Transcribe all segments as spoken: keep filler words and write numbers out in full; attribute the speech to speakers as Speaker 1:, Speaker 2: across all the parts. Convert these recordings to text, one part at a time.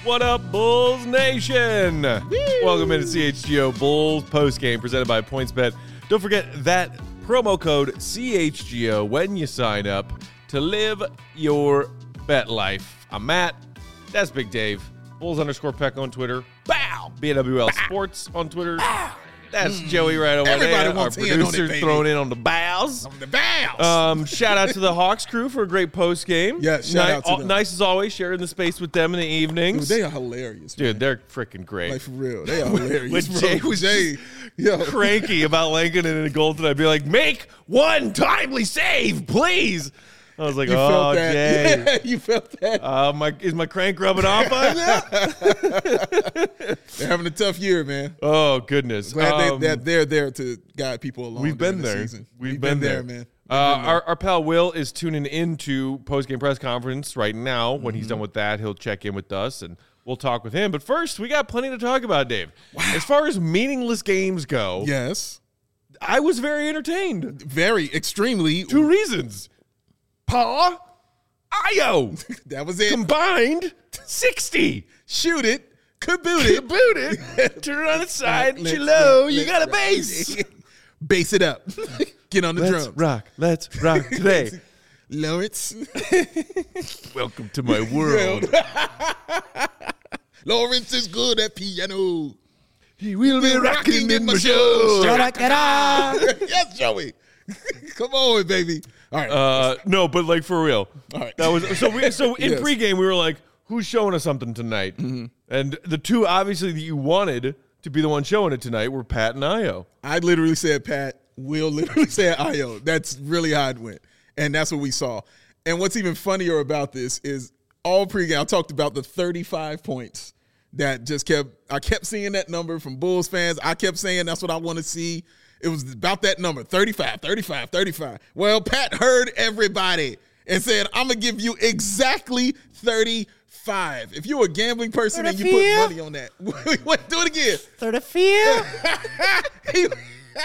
Speaker 1: What up, Bulls Nation? Woo! Welcome into C H G O Bulls postgame presented by PointsBet. Don't forget that promo code C H G O when you sign up to live your bet life. I'm Matt. That's Big Dave. Bulls underscore Peck on Twitter. Bow! B N W L Bow. Sports on Twitter. Bow. That's mm. Joey right over
Speaker 2: Everybody
Speaker 1: there. Our producer's throwing in on the bows.
Speaker 2: On the bows.
Speaker 1: Um, shout out to the Hawks crew for a great post game.
Speaker 2: Yeah, shout
Speaker 1: Ni-
Speaker 2: out to them.
Speaker 1: Nice as always, sharing the space with them in the evenings.
Speaker 2: Dude, they are hilarious,
Speaker 1: Dude,
Speaker 2: man.
Speaker 1: they're freaking great.
Speaker 2: Like, for real. They are hilarious,
Speaker 1: When
Speaker 2: bro.
Speaker 1: Jay was
Speaker 2: Jay, yo.
Speaker 1: cranky about Lankin and a goal tonight, I'd be like, make one timely save, please. I was like,
Speaker 2: You
Speaker 1: oh,
Speaker 2: felt that.
Speaker 1: Jay.
Speaker 2: Yeah, you felt that.
Speaker 1: Uh, my, is my crank rubbing off on now?
Speaker 2: They're having a tough year, man.
Speaker 1: Oh, goodness.
Speaker 2: Glad
Speaker 1: Um,
Speaker 2: they, that they're there to guide people along.
Speaker 1: We've been
Speaker 2: during the
Speaker 1: there.
Speaker 2: season.
Speaker 1: We've,
Speaker 2: We've
Speaker 1: been,
Speaker 2: been,
Speaker 1: there,
Speaker 2: man. We've
Speaker 1: Uh,
Speaker 2: been there.
Speaker 1: our, our pal Will is tuning into post-game press conference right now. When
Speaker 2: Mm-hmm.
Speaker 1: he's done with that, he'll check in with us, and we'll talk with him. But first, we got plenty to talk about, Dave.
Speaker 2: Wow.
Speaker 1: As far as meaningless games go,
Speaker 2: Yes.
Speaker 1: I was very entertained.
Speaker 2: Very, extremely.
Speaker 1: Two reasons. Pa, Io.
Speaker 2: That was it.
Speaker 1: Combined, sixty.
Speaker 2: Shoot it. Kaboot it.
Speaker 1: Boot it. Turn it on its side.
Speaker 2: Let's-
Speaker 1: Hello,
Speaker 2: let's-
Speaker 1: you got a
Speaker 2: let's-
Speaker 1: bass.
Speaker 2: Bass it up. Get on the
Speaker 1: Let's
Speaker 2: drum.
Speaker 1: rock. Let's rock today.
Speaker 2: Lawrence.
Speaker 1: Welcome to my world.
Speaker 2: Lawrence is good at piano.
Speaker 1: He will be rocking in my show.
Speaker 2: Yes, Joey. Come on, baby. All right.
Speaker 1: Uh, no, but like for real.
Speaker 2: All right.
Speaker 1: That was so. We so in
Speaker 2: Yes.
Speaker 1: pregame we were like, "Who's showing us something tonight?" Mm-hmm. And the two obviously that you wanted to be the one showing it tonight were Pat and Io.
Speaker 2: I literally said Pat. Will literally said Io. That's really how it went, and that's what we saw. And what's even funnier about this is all pregame I talked about the thirty-five points that just kept. I kept seeing that number from Bulls fans. I kept saying that's what I want to see. It was about that number, thirty-five, thirty-five, thirty-five. Well, Pat heard everybody and said, I'm going to give you exactly thirty-five. If you're a gambling person and you put money on that. Wait, do it again.
Speaker 1: thirty-five.
Speaker 2: he,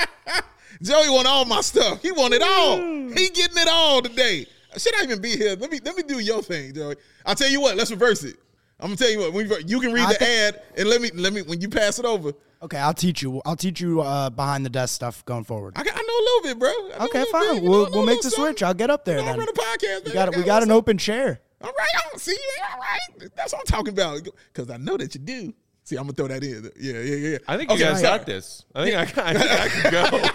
Speaker 2: Joey want all my stuff. He want it all. He getting it all today. Should I even be here? Let me let me do your thing, Joey. I'll tell you what. Let's reverse it. I'm gonna tell you what. When you, you can read
Speaker 3: I
Speaker 2: the
Speaker 3: think-
Speaker 2: ad and let me let me when you pass it over.
Speaker 3: Okay, I'll teach you. I'll teach you uh, behind the desk stuff going forward.
Speaker 2: I, got, I know a little bit, bro. I know
Speaker 3: Okay,
Speaker 2: a little
Speaker 3: fine.
Speaker 2: bit, you
Speaker 3: We'll
Speaker 2: know,
Speaker 3: we'll
Speaker 2: a
Speaker 3: make the
Speaker 2: little
Speaker 3: switch.
Speaker 2: something.
Speaker 3: I'll get up there
Speaker 2: You know, I
Speaker 3: then.
Speaker 2: run a podcast.
Speaker 3: We
Speaker 2: man.
Speaker 3: got
Speaker 2: I
Speaker 3: we got an
Speaker 2: something.
Speaker 3: open chair.
Speaker 2: All right, I don't see. All right, that's what I'm talking about. Because I know that you do. See, I'm gonna throw that in. Yeah, yeah, yeah.
Speaker 1: I think
Speaker 2: Okay,
Speaker 1: you guys
Speaker 2: sorry.
Speaker 1: got this. I think I, I think I can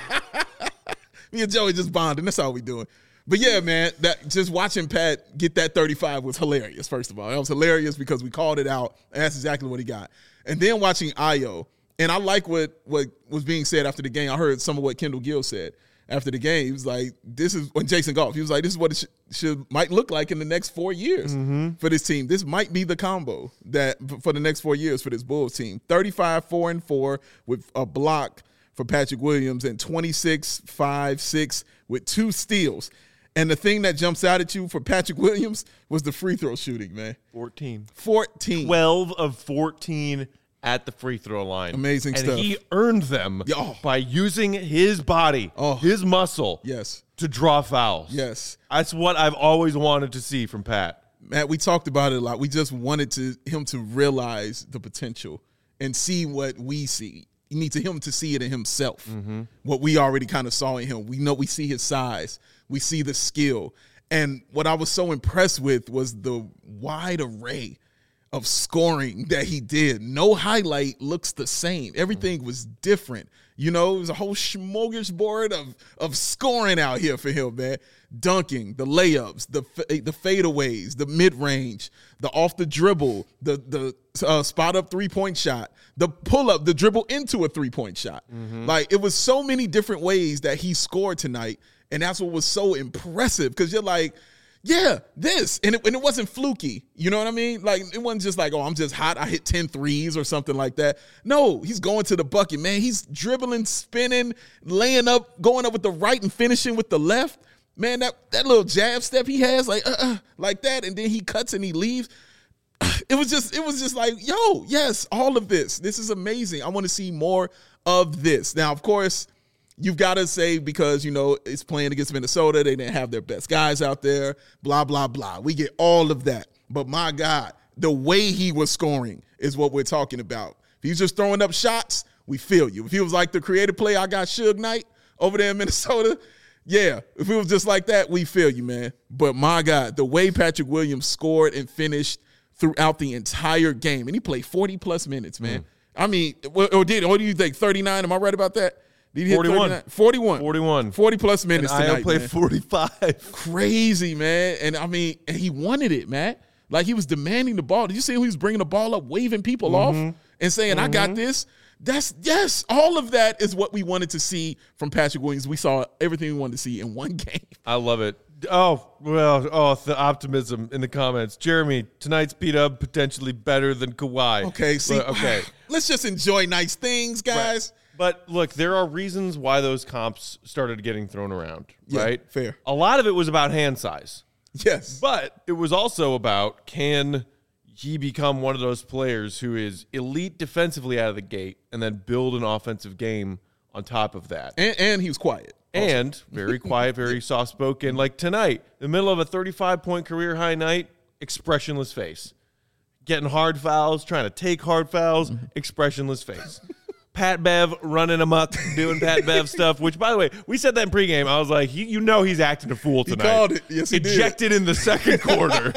Speaker 1: go.
Speaker 2: Me and Joey just bonding. That's all we doing. But yeah, man, that just watching Pat get that thirty-five was hilarious. First of all, that was hilarious because we called it out, and that's exactly what he got. And then watching Io, and I like what what was being said after the game. I heard some of what Kendall Gill said after the game. He was like, "This is when Jason Goff." He was like, "This is what it sh- should might look like in the next four years
Speaker 1: Mm-hmm.
Speaker 2: for this team. This might be the combo that for the next four years for this Bulls team. thirty-five, four and four with a block for Patrick Williams and twenty-six, five, six with two steals." And the thing that jumps out at you for Patrick Williams was the free throw shooting, man.
Speaker 1: fourteen.
Speaker 2: fourteen.
Speaker 1: twelve of fourteen at the free throw line.
Speaker 2: Amazing
Speaker 1: and
Speaker 2: stuff.
Speaker 1: And he earned them
Speaker 2: Oh.
Speaker 1: by using his body,
Speaker 2: Oh.
Speaker 1: his muscle,
Speaker 2: Yes.
Speaker 1: to draw fouls.
Speaker 2: Yes.
Speaker 1: That's what I've always wanted to see from Pat.
Speaker 2: Matt, we talked about it a lot. We just wanted to him to realize the potential and see what we see. You need to him to see it in himself. Mm-hmm. What we already kind of saw in him. We know we see his size. We see the skill. And what I was so impressed with was the wide array of scoring that he did. No highlight looks the same. Everything was different. You know, it was a whole smorgasbord of of scoring out here for him, man. Dunking, the layups, the the fadeaways, the mid-range, the off the dribble, the the uh, spot up three-point shot, the pull-up, the dribble into a three-point shot. Mm-hmm. Like, it was so many different ways that he scored tonight, and that's what was so impressive because you're like, yeah, this. And it, and it wasn't fluky. You know what I mean? Like, it wasn't just like, oh, I'm just hot. I hit ten threes or something like that. No, he's going to the bucket, man. He's dribbling, spinning, laying up, going up with the right and finishing with the left. Man, that, that little jab step he has, like, uh-uh, like that, and then he cuts and he leaves. It was just, it was just like, yo, yes, all of this. This is amazing. I want to see more of this. Now, of course, you've got to say because, you know, it's playing against Minnesota. They didn't have their best guys out there, blah, blah, blah. We get all of that. But my God, The way he was scoring is what we're talking about. If he's just throwing up shots, we feel you. If he was like the creative play, I got Suge Knight over there in Minnesota, yeah. If it was just like that, we feel you, man. But my God, the way Patrick Williams scored and finished throughout the entire game, and he played forty-plus minutes, man. Mm. I mean, or did what do you think, thirty-nine? Am I right about that? Did he hit
Speaker 1: forty-one.
Speaker 2: forty-one.
Speaker 1: forty-one.
Speaker 2: forty-plus minutes
Speaker 1: and
Speaker 2: tonight,
Speaker 1: I played
Speaker 2: man.
Speaker 1: forty-five.
Speaker 2: Crazy, man. And, I mean, and he wanted it, man. Like, he was demanding the ball. Did you see him? He was bringing the ball up, waving people mm-hmm. off and saying, mm-hmm. I got this. That's, yes, all of that is what we wanted to see from Patrick Williams. We saw everything we wanted to see in one game.
Speaker 1: I love it. Oh, well, oh, the optimism in the comments. Jeremy, tonight's P-Dub potentially better than Kawhi.
Speaker 2: Okay, see,
Speaker 1: but, okay.
Speaker 2: Let's just enjoy nice things, guys.
Speaker 1: Right. But, look, there are reasons why those comps started getting thrown around,
Speaker 2: yeah,
Speaker 1: right?
Speaker 2: Fair.
Speaker 1: A lot of it was about hand size.
Speaker 2: Yes.
Speaker 1: But it was also about, can he become one of those players who is elite defensively out of the gate and then build an offensive game on top of that?
Speaker 2: And, and he was quiet. Also.
Speaker 1: And very quiet, very soft-spoken. Like tonight, in the middle of a thirty-five point career-high night, expressionless face. Getting hard fouls, trying to take hard fouls, expressionless face. Pat Bev running amok, doing Pat Bev stuff, which, by the way, we said that in pregame. I was like, you, you know he's acting a fool tonight.
Speaker 2: He called it. Yes, he
Speaker 1: Ejected
Speaker 2: did.
Speaker 1: in the second quarter.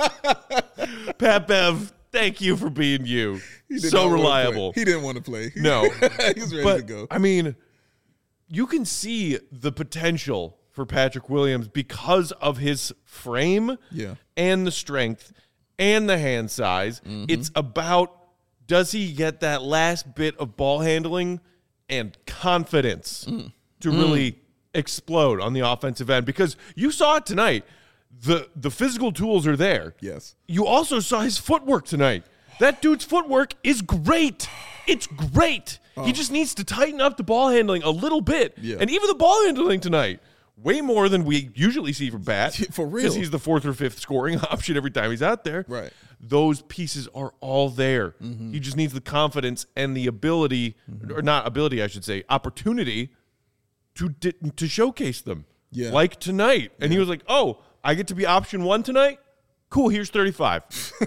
Speaker 1: Pat Bev, thank you for being you. So reliable.
Speaker 2: He didn't want to play.
Speaker 1: No.
Speaker 2: He was ready
Speaker 1: but,
Speaker 2: to go.
Speaker 1: I mean, you can see the potential for Patrick Williams because of his frame
Speaker 2: yeah.
Speaker 1: and the strength and the hand size. Mm-hmm. It's about, does he get that last bit of ball handling and confidence mm. to mm. really explode on the offensive end? Because you saw it tonight. The the physical tools are there.
Speaker 2: Yes.
Speaker 1: You also saw his footwork tonight. That dude's footwork is great. It's great. Oh. He just needs to tighten up the ball handling a little bit.
Speaker 2: Yeah.
Speaker 1: And even the ball handling tonight, way more than we usually see from Bat.
Speaker 2: For real.
Speaker 1: Because he's the fourth or fifth scoring option every time he's out there.
Speaker 2: Right.
Speaker 1: Those pieces are all there. Mm-hmm. He just needs the confidence and the ability, mm-hmm. or not ability, I should say, opportunity to di- to showcase them.
Speaker 2: Yeah.
Speaker 1: Like tonight. And yeah. he was like, oh, I get to be option one tonight? Cool, here's thirty-five.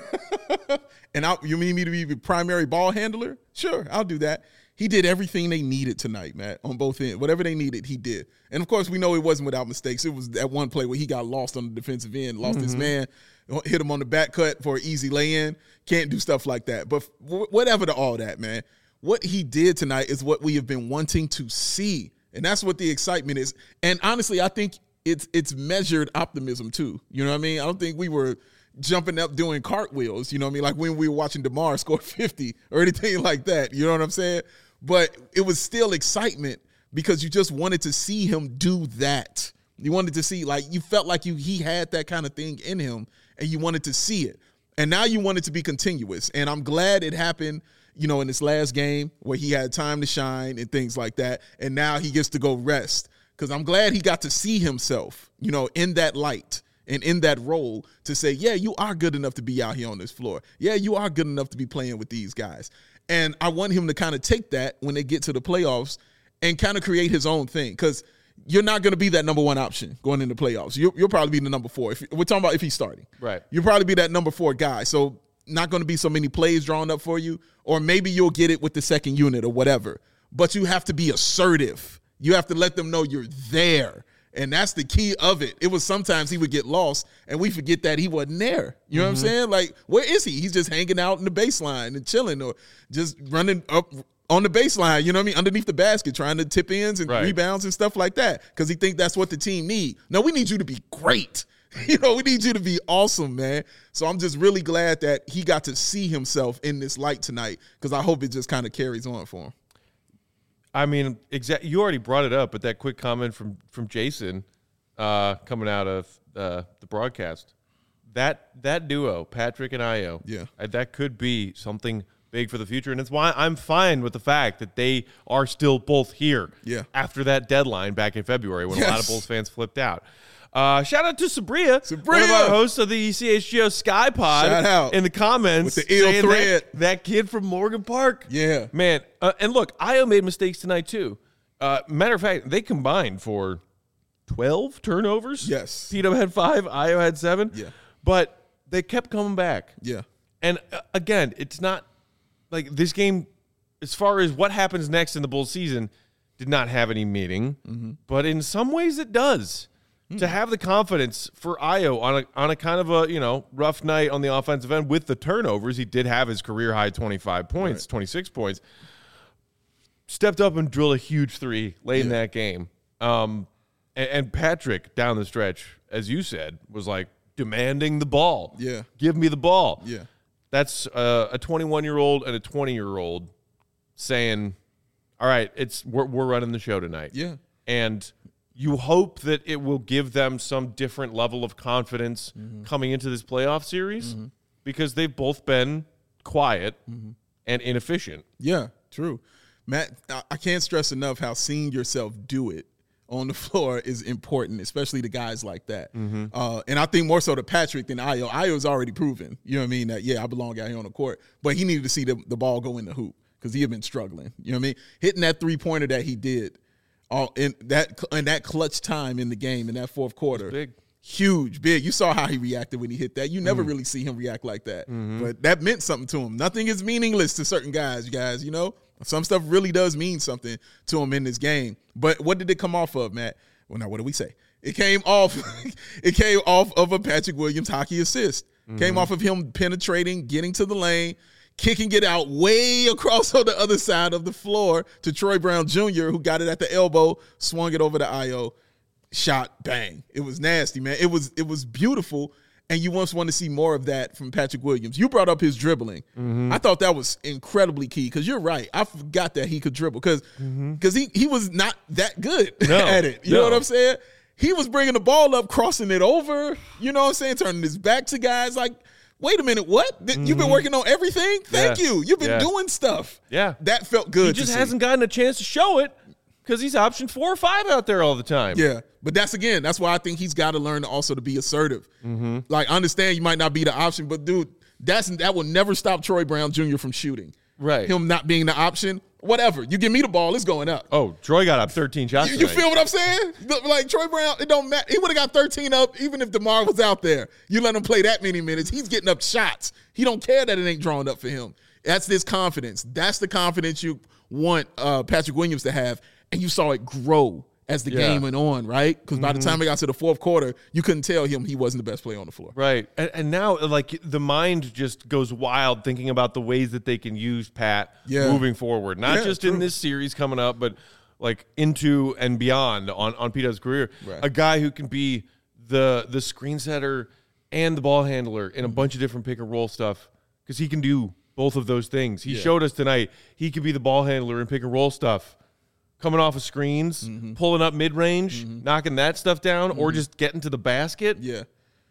Speaker 2: And I, you mean me to be the primary ball handler? Sure, I'll do that. He did everything they needed tonight, Matt, on both ends. Whatever they needed, he did. And, of course, we know it wasn't without mistakes. It was that one play where he got lost on the defensive end, lost mm-hmm. his man, hit him on the back cut for an easy lay-in. Can't do stuff like that. But whatever to all that, man, what he did tonight is what we have been wanting to see. And that's what the excitement is. And, honestly, I think it's it's measured optimism, too. You know what I mean? I don't think we were – jumping up doing cartwheels, you know what I mean? Like when we were watching DeMar score fifty or anything like that, you know what I'm saying? But it was still excitement because you just wanted to see him do that. You wanted to see, like, you felt like you he had that kind of thing in him and you wanted to see it. And now you want it to be continuous. And I'm glad it happened, you know, in this last game where he had time to shine and things like that. And now he gets to go rest because I'm glad he got to see himself, you know, in that light. And in that role to say, yeah, you are good enough to be out here on this floor. Yeah, you are good enough to be playing with these guys. And I want him to kind of take that when they get to the playoffs and kind of create his own thing because you're not going to be that number one option going into playoffs. You'll, you'll probably be the number four. If we're talking about if he's starting.
Speaker 1: Right.
Speaker 2: You'll probably be that number four guy. So not going to be so many plays drawn up for you, or maybe you'll get it with the second unit or whatever. But you have to be assertive. You have to let them know you're there. And that's the key of it. It was sometimes he would get lost, and we forget that he wasn't there. You know mm-hmm. what I'm saying? Like, where is he? He's just hanging out in the baseline and chilling or just running up on the baseline, you know what I mean, underneath the basket, trying to tip ins and right. rebounds and stuff like that because he think that's what the team need. No, we need you to be great. You know, we need you to be awesome, man. So I'm just really glad that he got to see himself in this light tonight because I hope it just kind of carries on for him.
Speaker 1: I mean, exactly. You already brought it up, but that quick comment from from Jason uh, coming out of uh, the broadcast, that that duo, Patrick and Ayo,
Speaker 2: yeah,
Speaker 1: uh, that could be something big for the future, and it's why I'm fine with the fact that they are still both here.
Speaker 2: Yeah.
Speaker 1: After that deadline back in February when
Speaker 2: yes.
Speaker 1: a lot of Bulls fans flipped out. Uh, shout out to Sabria,
Speaker 2: Sabria,
Speaker 1: one of our hosts of the C H G O Sky Pod.
Speaker 2: Shout out
Speaker 1: in the comments
Speaker 2: with the ill thread.
Speaker 1: That, that kid from Morgan Park.
Speaker 2: Yeah,
Speaker 1: man. Uh, and look, Ayo made mistakes tonight too. Uh, matter of fact, they combined for twelve turnovers.
Speaker 2: Yes,
Speaker 1: P-Dub had five, Ayo had seven.
Speaker 2: Yeah,
Speaker 1: but they kept coming back.
Speaker 2: Yeah,
Speaker 1: And uh, again, it's not like this game, as far as what happens next in the Bulls season, did not have any meaning. Mm-hmm. But in some ways it does. Mm-hmm. To have the confidence for Ayo on a on a kind of a, you know, rough night on the offensive end with the turnovers, he did have his career high twenty-five points, right. twenty-six points. Stepped up and drilled a huge three late yeah. in that game. Um, and, and Patrick, down the stretch, as you said, was like demanding the ball.
Speaker 2: Yeah.
Speaker 1: Give me the ball.
Speaker 2: Yeah.
Speaker 1: That's uh, a twenty-one-year-old and a twenty-year-old saying, all right, it's we're, we're running the show tonight.
Speaker 2: Yeah.
Speaker 1: And you hope that it will give them some different level of confidence mm-hmm. coming into this playoff series mm-hmm. because they've both been quiet mm-hmm. and inefficient.
Speaker 2: Yeah, true. Matt, I can't stress enough how seeing yourself do it on the floor is important, especially to guys like that. Mm-hmm. Uh, and I think more so to Patrick than Ayo. Ayo's already proven, you know what I mean, that, yeah, I belong out here on the court. But he needed to see the, the ball go in the hoop because he had been struggling. You know what I mean? Hitting that three-pointer that he did all in that in that clutch time in the game in that fourth quarter.
Speaker 1: Big.
Speaker 2: Huge, big. You saw how he reacted when he hit that. You never mm. really see him react like that. Mm-hmm. But that meant something to him. Nothing is meaningless to certain guys, you guys, you know? Some stuff really does mean something to him in this game. But what did it come off of, Matt? Well, now, what did we say? It came off it came off of a Patrick Williams hockey assist. Mm-hmm. Came off of him penetrating, getting to the lane, kicking it out way across on the other side of the floor to Troy Brown Junior, who got it at the elbow, swung it over to Ayo, shot, bang. It was nasty, man. It was it was beautiful. And you once want to see more of that from Patrick Williams. You brought up his dribbling. Mm-hmm. I thought that was incredibly key because you're right. I forgot that he could dribble because mm-hmm. he, he was not that good
Speaker 1: no,
Speaker 2: at it. You
Speaker 1: no.
Speaker 2: know what I'm saying? He was bringing the ball up, crossing it over, you know what I'm saying, turning his back to guys like, wait a minute, what? Mm-hmm. You've been working on everything? Thank
Speaker 1: yeah.
Speaker 2: you. You've been
Speaker 1: yeah.
Speaker 2: doing stuff.
Speaker 1: Yeah.
Speaker 2: That felt good.
Speaker 1: He just
Speaker 2: to
Speaker 1: hasn't
Speaker 2: see.
Speaker 1: gotten a chance to show it because he's option four or five out there all the time.
Speaker 2: Yeah. But that's, again, that's why I think he's got to learn also to be assertive.
Speaker 1: Mm-hmm.
Speaker 2: Like, I understand you might not be the option, but, dude, that's that will never stop Troy Brown Junior from shooting.
Speaker 1: Right.
Speaker 2: Him not being the option, whatever. You give me the ball, it's going up.
Speaker 1: Oh, Troy got up thirteen shots
Speaker 2: You, you
Speaker 1: tonight.
Speaker 2: feel what I'm saying? Like, Troy Brown, it don't matter. He would have got thirteen up even if DeMar was out there. You let him play that many minutes, he's getting up shots. He don't care that it ain't drawn up for him. That's this confidence. That's the confidence you want uh, Patrick Williams to have, and you saw it grow as the
Speaker 1: yeah.
Speaker 2: game went on, right? Because by mm-hmm. the time we got to the fourth quarter, you couldn't tell him he wasn't the best player on the floor.
Speaker 1: Right. And, and now, like, the mind just goes wild thinking about the ways that they can use Pat
Speaker 2: yeah.
Speaker 1: moving forward. Not
Speaker 2: yeah,
Speaker 1: just
Speaker 2: true.
Speaker 1: in this series coming up, but, like, into and beyond on, on P-Dub's career.
Speaker 2: Right.
Speaker 1: A guy who can be the the screen setter and the ball handler in a bunch of different pick-and-roll stuff because he can do both of those things. He
Speaker 2: yeah.
Speaker 1: showed us tonight he could be the ball handler in pick-and-roll stuff. Coming off of screens, mm-hmm. pulling up mid-range, mm-hmm. knocking that stuff down, mm-hmm. or just getting to the basket.
Speaker 2: Yeah.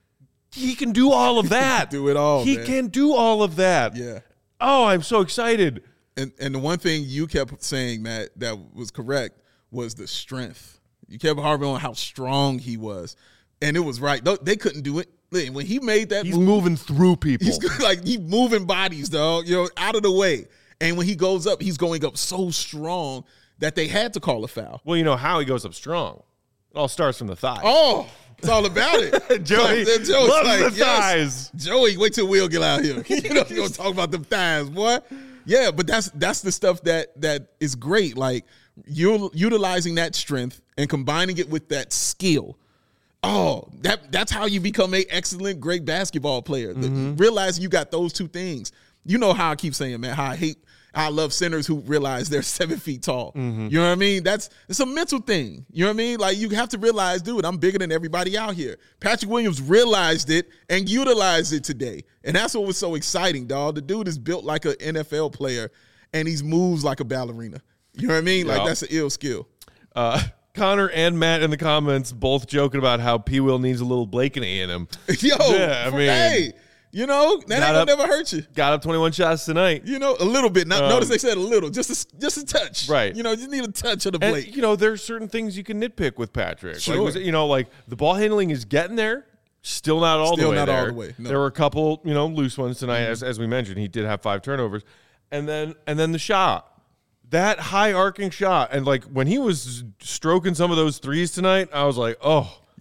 Speaker 1: He can do all of that.
Speaker 2: do it all,
Speaker 1: He
Speaker 2: man.
Speaker 1: can do all of that.
Speaker 2: Yeah.
Speaker 1: Oh, I'm so excited.
Speaker 2: And and the one thing you kept saying, Matt, that was correct was the strength. You kept harping on how strong he was. And it was right. They couldn't do it. When he made that
Speaker 1: He's
Speaker 2: move,
Speaker 1: moving through people.
Speaker 2: He's like he's moving bodies, dog, you know, out of the way. And when he goes up, he's going up so strong that they had to call a foul.
Speaker 1: Well, you know how he goes up strong. It all starts from the thighs.
Speaker 2: Oh, it's all about it.
Speaker 1: Joey
Speaker 2: Joey's
Speaker 1: loves
Speaker 2: like,
Speaker 1: the
Speaker 2: yes.
Speaker 1: thighs.
Speaker 2: Joey, wait till Will get out here. You know, you're going to talk about them thighs, boy. Yeah, but that's that's the stuff that that is great. Like, you're utilizing that strength and combining it with that skill. Oh, that that's how you become an excellent, great basketball player. Mm-hmm. Realizing you got those two things. You know how I keep saying, man, how I hate I love centers who realize they're seven feet tall. Mm-hmm. You know what I mean? That's it's a mental thing. You know what I mean? Like, you have to realize, dude, I'm bigger than everybody out here. Patrick Williams realized it and utilized it today. And that's what was so exciting, dog. The dude is built like an N F L player, and he moves like a ballerina. You know what I mean? Like,
Speaker 1: yeah.
Speaker 2: that's an ill skill.
Speaker 1: Uh, Connor and Matt in the comments both joking about how P. Will needs a little Blakeney in him.
Speaker 2: Yo,
Speaker 1: yeah, I mean,
Speaker 2: hey. You know, that ain't gonna
Speaker 1: up,
Speaker 2: never hurt you.
Speaker 1: Got up twenty-one shots tonight.
Speaker 2: You know, a little bit. Not,
Speaker 1: um,
Speaker 2: notice they said a little, just a, just a touch.
Speaker 1: Right.
Speaker 2: You know, just need a touch of the
Speaker 1: and,
Speaker 2: Blake.
Speaker 1: you know, there's certain things you can nitpick with Patrick.
Speaker 2: Sure.
Speaker 1: Like, was it, you know, like the ball handling is getting there. Still not all
Speaker 2: Still
Speaker 1: the way
Speaker 2: not
Speaker 1: there.
Speaker 2: all the way. No.
Speaker 1: There were a couple, you know, loose ones tonight,
Speaker 2: Mm-hmm.
Speaker 1: as as we mentioned. He did have five turnovers, and then and then the shot, that high arcing shot, and like when he was stroking some of those threes tonight, I was like, oh.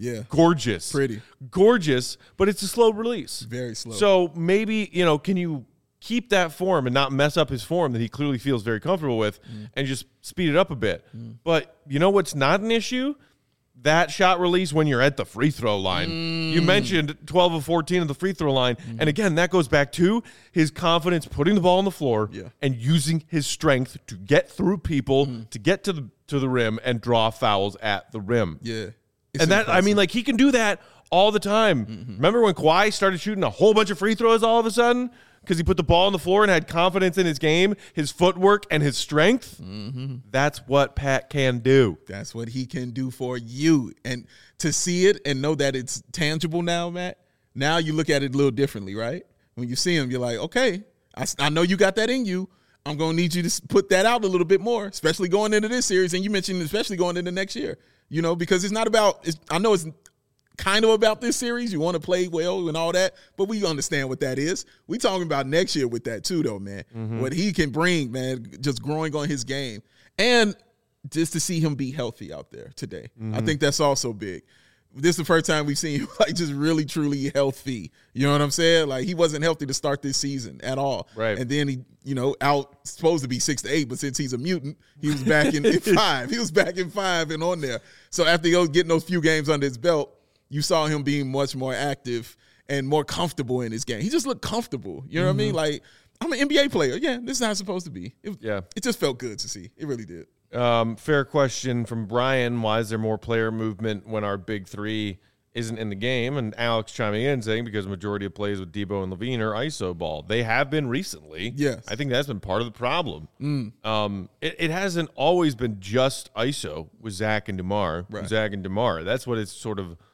Speaker 2: Yeah.
Speaker 1: Gorgeous.
Speaker 2: Pretty.
Speaker 1: Gorgeous, but it's a slow release.
Speaker 2: Very slow.
Speaker 1: So maybe, you know, can you keep that form and not mess up his form that he clearly feels very comfortable with mm. and just speed it up a bit? Mm. But you know what's not an issue? That shot release when you're at the free throw line. Mm. You mentioned twelve of fourteen of the free throw line. Mm. And again, that goes back to his confidence putting the ball on the floor
Speaker 2: yeah.
Speaker 1: and using his strength to get through people, mm. to get to the to the rim and draw fouls at the rim.
Speaker 2: Yeah.
Speaker 1: It's and that, impressive. I mean, like, he can do that all the time. Mm-hmm. Remember when Kawhi started shooting a whole bunch of free throws all of a sudden? Because he put the ball on the floor and had confidence in his game, his footwork, and his strength. Mm-hmm. That's what Pat can do.
Speaker 2: That's what he can do for you. And to see it and know that it's tangible now, Matt, now you look at it a little differently, right? When you see him, you're like, okay, I, I know you got that in you. I'm going to need you to put that out a little bit more, especially going into this series. And you mentioned especially going into next year, you know, because it's not about it's, – I know it's kind of about this series. You want to play well and all that, but we understand what that is. We talking about next year with that too, though, man. Mm-hmm. What he can bring, man, just growing on his game. And just to see him be healthy out there today. Mm-hmm. I think that's also big. This is the first time we've seen him like just really, truly healthy. You know what I'm saying? Like he wasn't healthy to start this season at all.
Speaker 1: Right.
Speaker 2: And then he, you know, out supposed to be six to eight, but since he's a mutant, he was back in, in five. He was back in five and on there. So after he was getting those few games under his belt, you saw him being much more active and more comfortable in his game. He just looked comfortable. You know mm-hmm. what I mean? Like, I'm an N B A player. Yeah, this is how it's supposed to be. It,
Speaker 1: yeah.
Speaker 2: It just felt good to see. It really did.
Speaker 1: Um, fair question from Brian. Why is there more player movement when our big three isn't in the game? And Alex chiming in saying because the majority of plays with Debo and Levine are I S O ball. They have been recently.
Speaker 2: Yes.
Speaker 1: I think that's been part of the problem.
Speaker 2: Mm.
Speaker 1: Um, it, it hasn't always been just I S O with Zach and DeMar.
Speaker 2: Right.
Speaker 1: Zach and DeMar. That's what it's sort of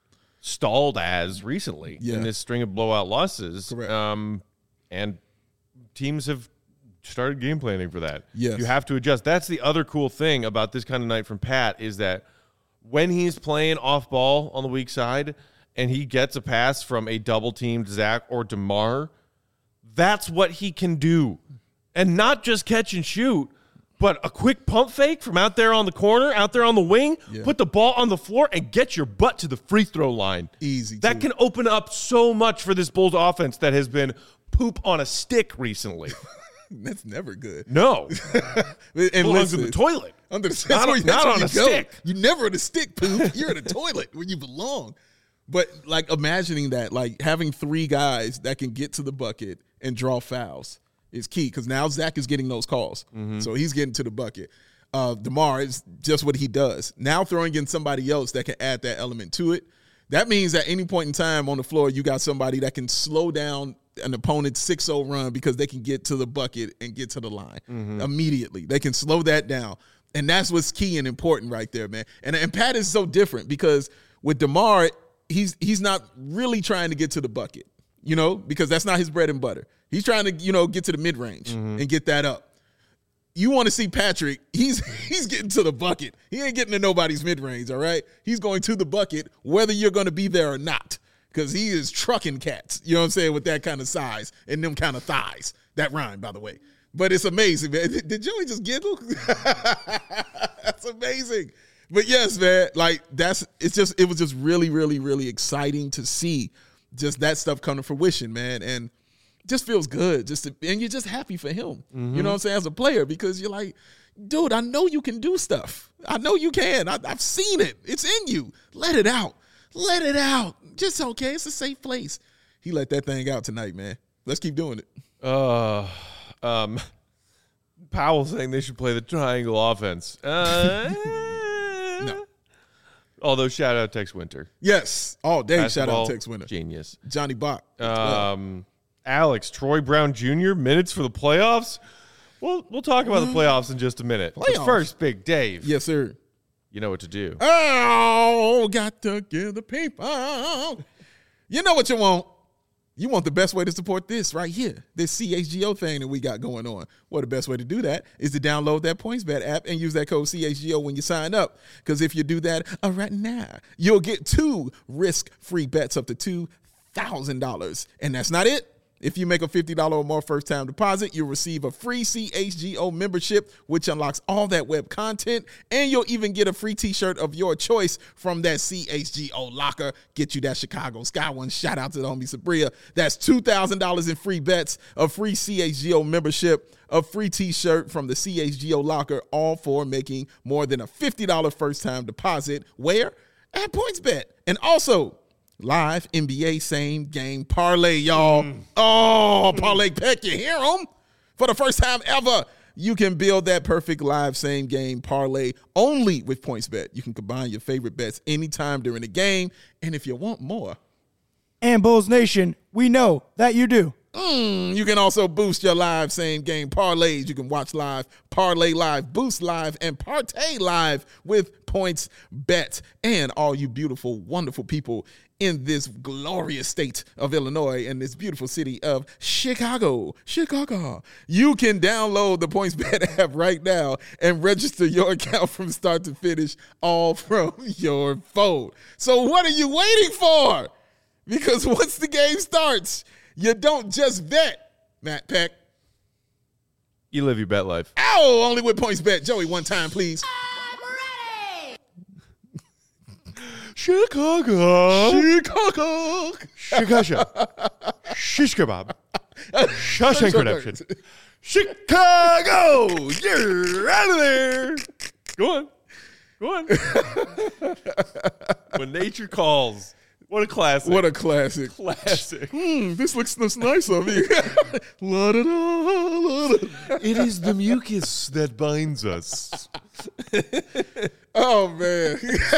Speaker 1: stalled as recently
Speaker 2: yeah.
Speaker 1: in this string of blowout losses.
Speaker 2: Correct.
Speaker 1: Um, and teams have started game planning for that.
Speaker 2: Yes.
Speaker 1: You have to adjust. That's the other cool thing about this kind of night from Pat is that when he's playing off ball on the weak side and he gets a pass from a double-teamed Zach or DeMar, that's what he can do. And not just catch and shoot, but a quick pump fake from out there on the corner, out there on the wing,
Speaker 2: yeah.
Speaker 1: put the ball on the floor, and get your butt to the free throw line.
Speaker 2: Easy.
Speaker 1: That
Speaker 2: too.
Speaker 1: can open up so much for this Bulls offense that has been poop on a stick recently.
Speaker 2: That's never good.
Speaker 1: No.
Speaker 2: And
Speaker 1: belongs
Speaker 2: listen,
Speaker 1: in the toilet.
Speaker 2: Under the
Speaker 1: Not,
Speaker 2: that's
Speaker 1: not
Speaker 2: where
Speaker 1: on
Speaker 2: you
Speaker 1: a
Speaker 2: go.
Speaker 1: stick.
Speaker 2: You never in a stick, poop. You're in a toilet where you belong. But like imagining that, like having three guys that can get to the bucket and draw fouls is key because now Zach is getting those calls. Mm-hmm. So he's getting to the bucket. Uh, DeMar is just what he does. Now throwing in somebody else that can add that element to it. That means at any point in time on the floor, you got somebody that can slow down an opponent's six oh run because they can get to the bucket and get to the line mm-hmm. immediately. They can slow that down. And that's what's key and important right there, man. And, and Pat is so different because with DeMar, he's he's not really trying to get to the bucket, you know, because that's not his bread and butter. He's trying to, you know, get to the mid-range mm-hmm. and get that up. You want to see Patrick, he's he's getting to the bucket. He ain't getting to nobody's mid-range, all right? He's going to the bucket whether you're going to be there or not because he is trucking cats, you know what I'm saying, with that kind of size and them kind of thighs. That rhyme, by the way. But it's amazing, man. Did Joey just giggle? That's amazing. But yes, man, like that's it's just it was just really, really, really exciting to see just that stuff come to fruition, man. And just feels good. Just to, and you're just happy for him. Mm-hmm. You know what I'm saying, as a player, because you're like, dude, I know you can do stuff. I know you can. I, I've seen it. It's in you. Let it out. Let it out. Just okay. It's a safe place. He let that thing out tonight, man. Let's keep doing it.
Speaker 1: Uh, um, Powell saying they should play the triangle offense. Uh,
Speaker 2: no.
Speaker 1: Although, shout out Tex Winter.
Speaker 2: Yes. All day,
Speaker 1: Basketball,
Speaker 2: shout out Tex Winter.
Speaker 1: Genius.
Speaker 2: Johnny Bach.
Speaker 1: Um, Alex, Troy Brown Junior, minutes for the playoffs? We'll, we'll talk about the playoffs in just a minute.
Speaker 2: Playoffs?
Speaker 1: But first, Big Dave.
Speaker 2: Yes, sir.
Speaker 1: You know what to do.
Speaker 2: Oh, got to give the people. You know what you want. You want the best way to support this right here, this C H G O thing that we got going on. Well, the best way to do that is to download that PointsBet app and use that code C H G O when you sign up. Because if you do that uh, right now, you'll get two risk-free bets up to two thousand dollars. And that's not it. If you make a fifty dollars or more first-time deposit, you'll receive a free C H G O membership, which unlocks all that web content, and you'll even get a free t-shirt of your choice from that C H G O locker. Get you that Chicago Sky one. Shout out to the homie Sabria. That's two thousand dollars in free bets, a free C H G O membership, a free t-shirt from the C H G O locker, all for making more than a fifty dollars first-time deposit. Where? At PointsBet. And also, live N B A same game parlay, y'all. Mm. Oh, parlay Peck, you hear them? For the first time ever, you can build that perfect live same game parlay only with PointsBet. You can combine your favorite bets anytime during the game. And if you want more,
Speaker 3: and Bulls Nation, we know that you do.
Speaker 2: Mm, you can also boost your live same game parlays. You can watch live, parlay live, boost live, and partay live with PointsBet. And all you beautiful, wonderful people in this glorious state of Illinois and this beautiful city of Chicago, Chicago, you can download the PointsBet app right now and register your account from start to finish, all from your phone. So what are you waiting for? Because once the game starts, you don't just bet, Matt Peck.
Speaker 1: You live your bet life.
Speaker 2: Ow, only with PointsBet. Joey, one time, please.
Speaker 4: I'm ready.
Speaker 1: Chicago.
Speaker 2: Chicago.
Speaker 1: Chicago. Shish kebab. Shawshank Redemption. Chicago. You're out of there. Go on. Go on. When nature calls. What a classic.
Speaker 2: What a classic.
Speaker 1: Classic.
Speaker 2: Hmm, this looks this nice on me. La-da-da, la-da-da.
Speaker 1: It is the mucus that binds us.
Speaker 2: Oh, man.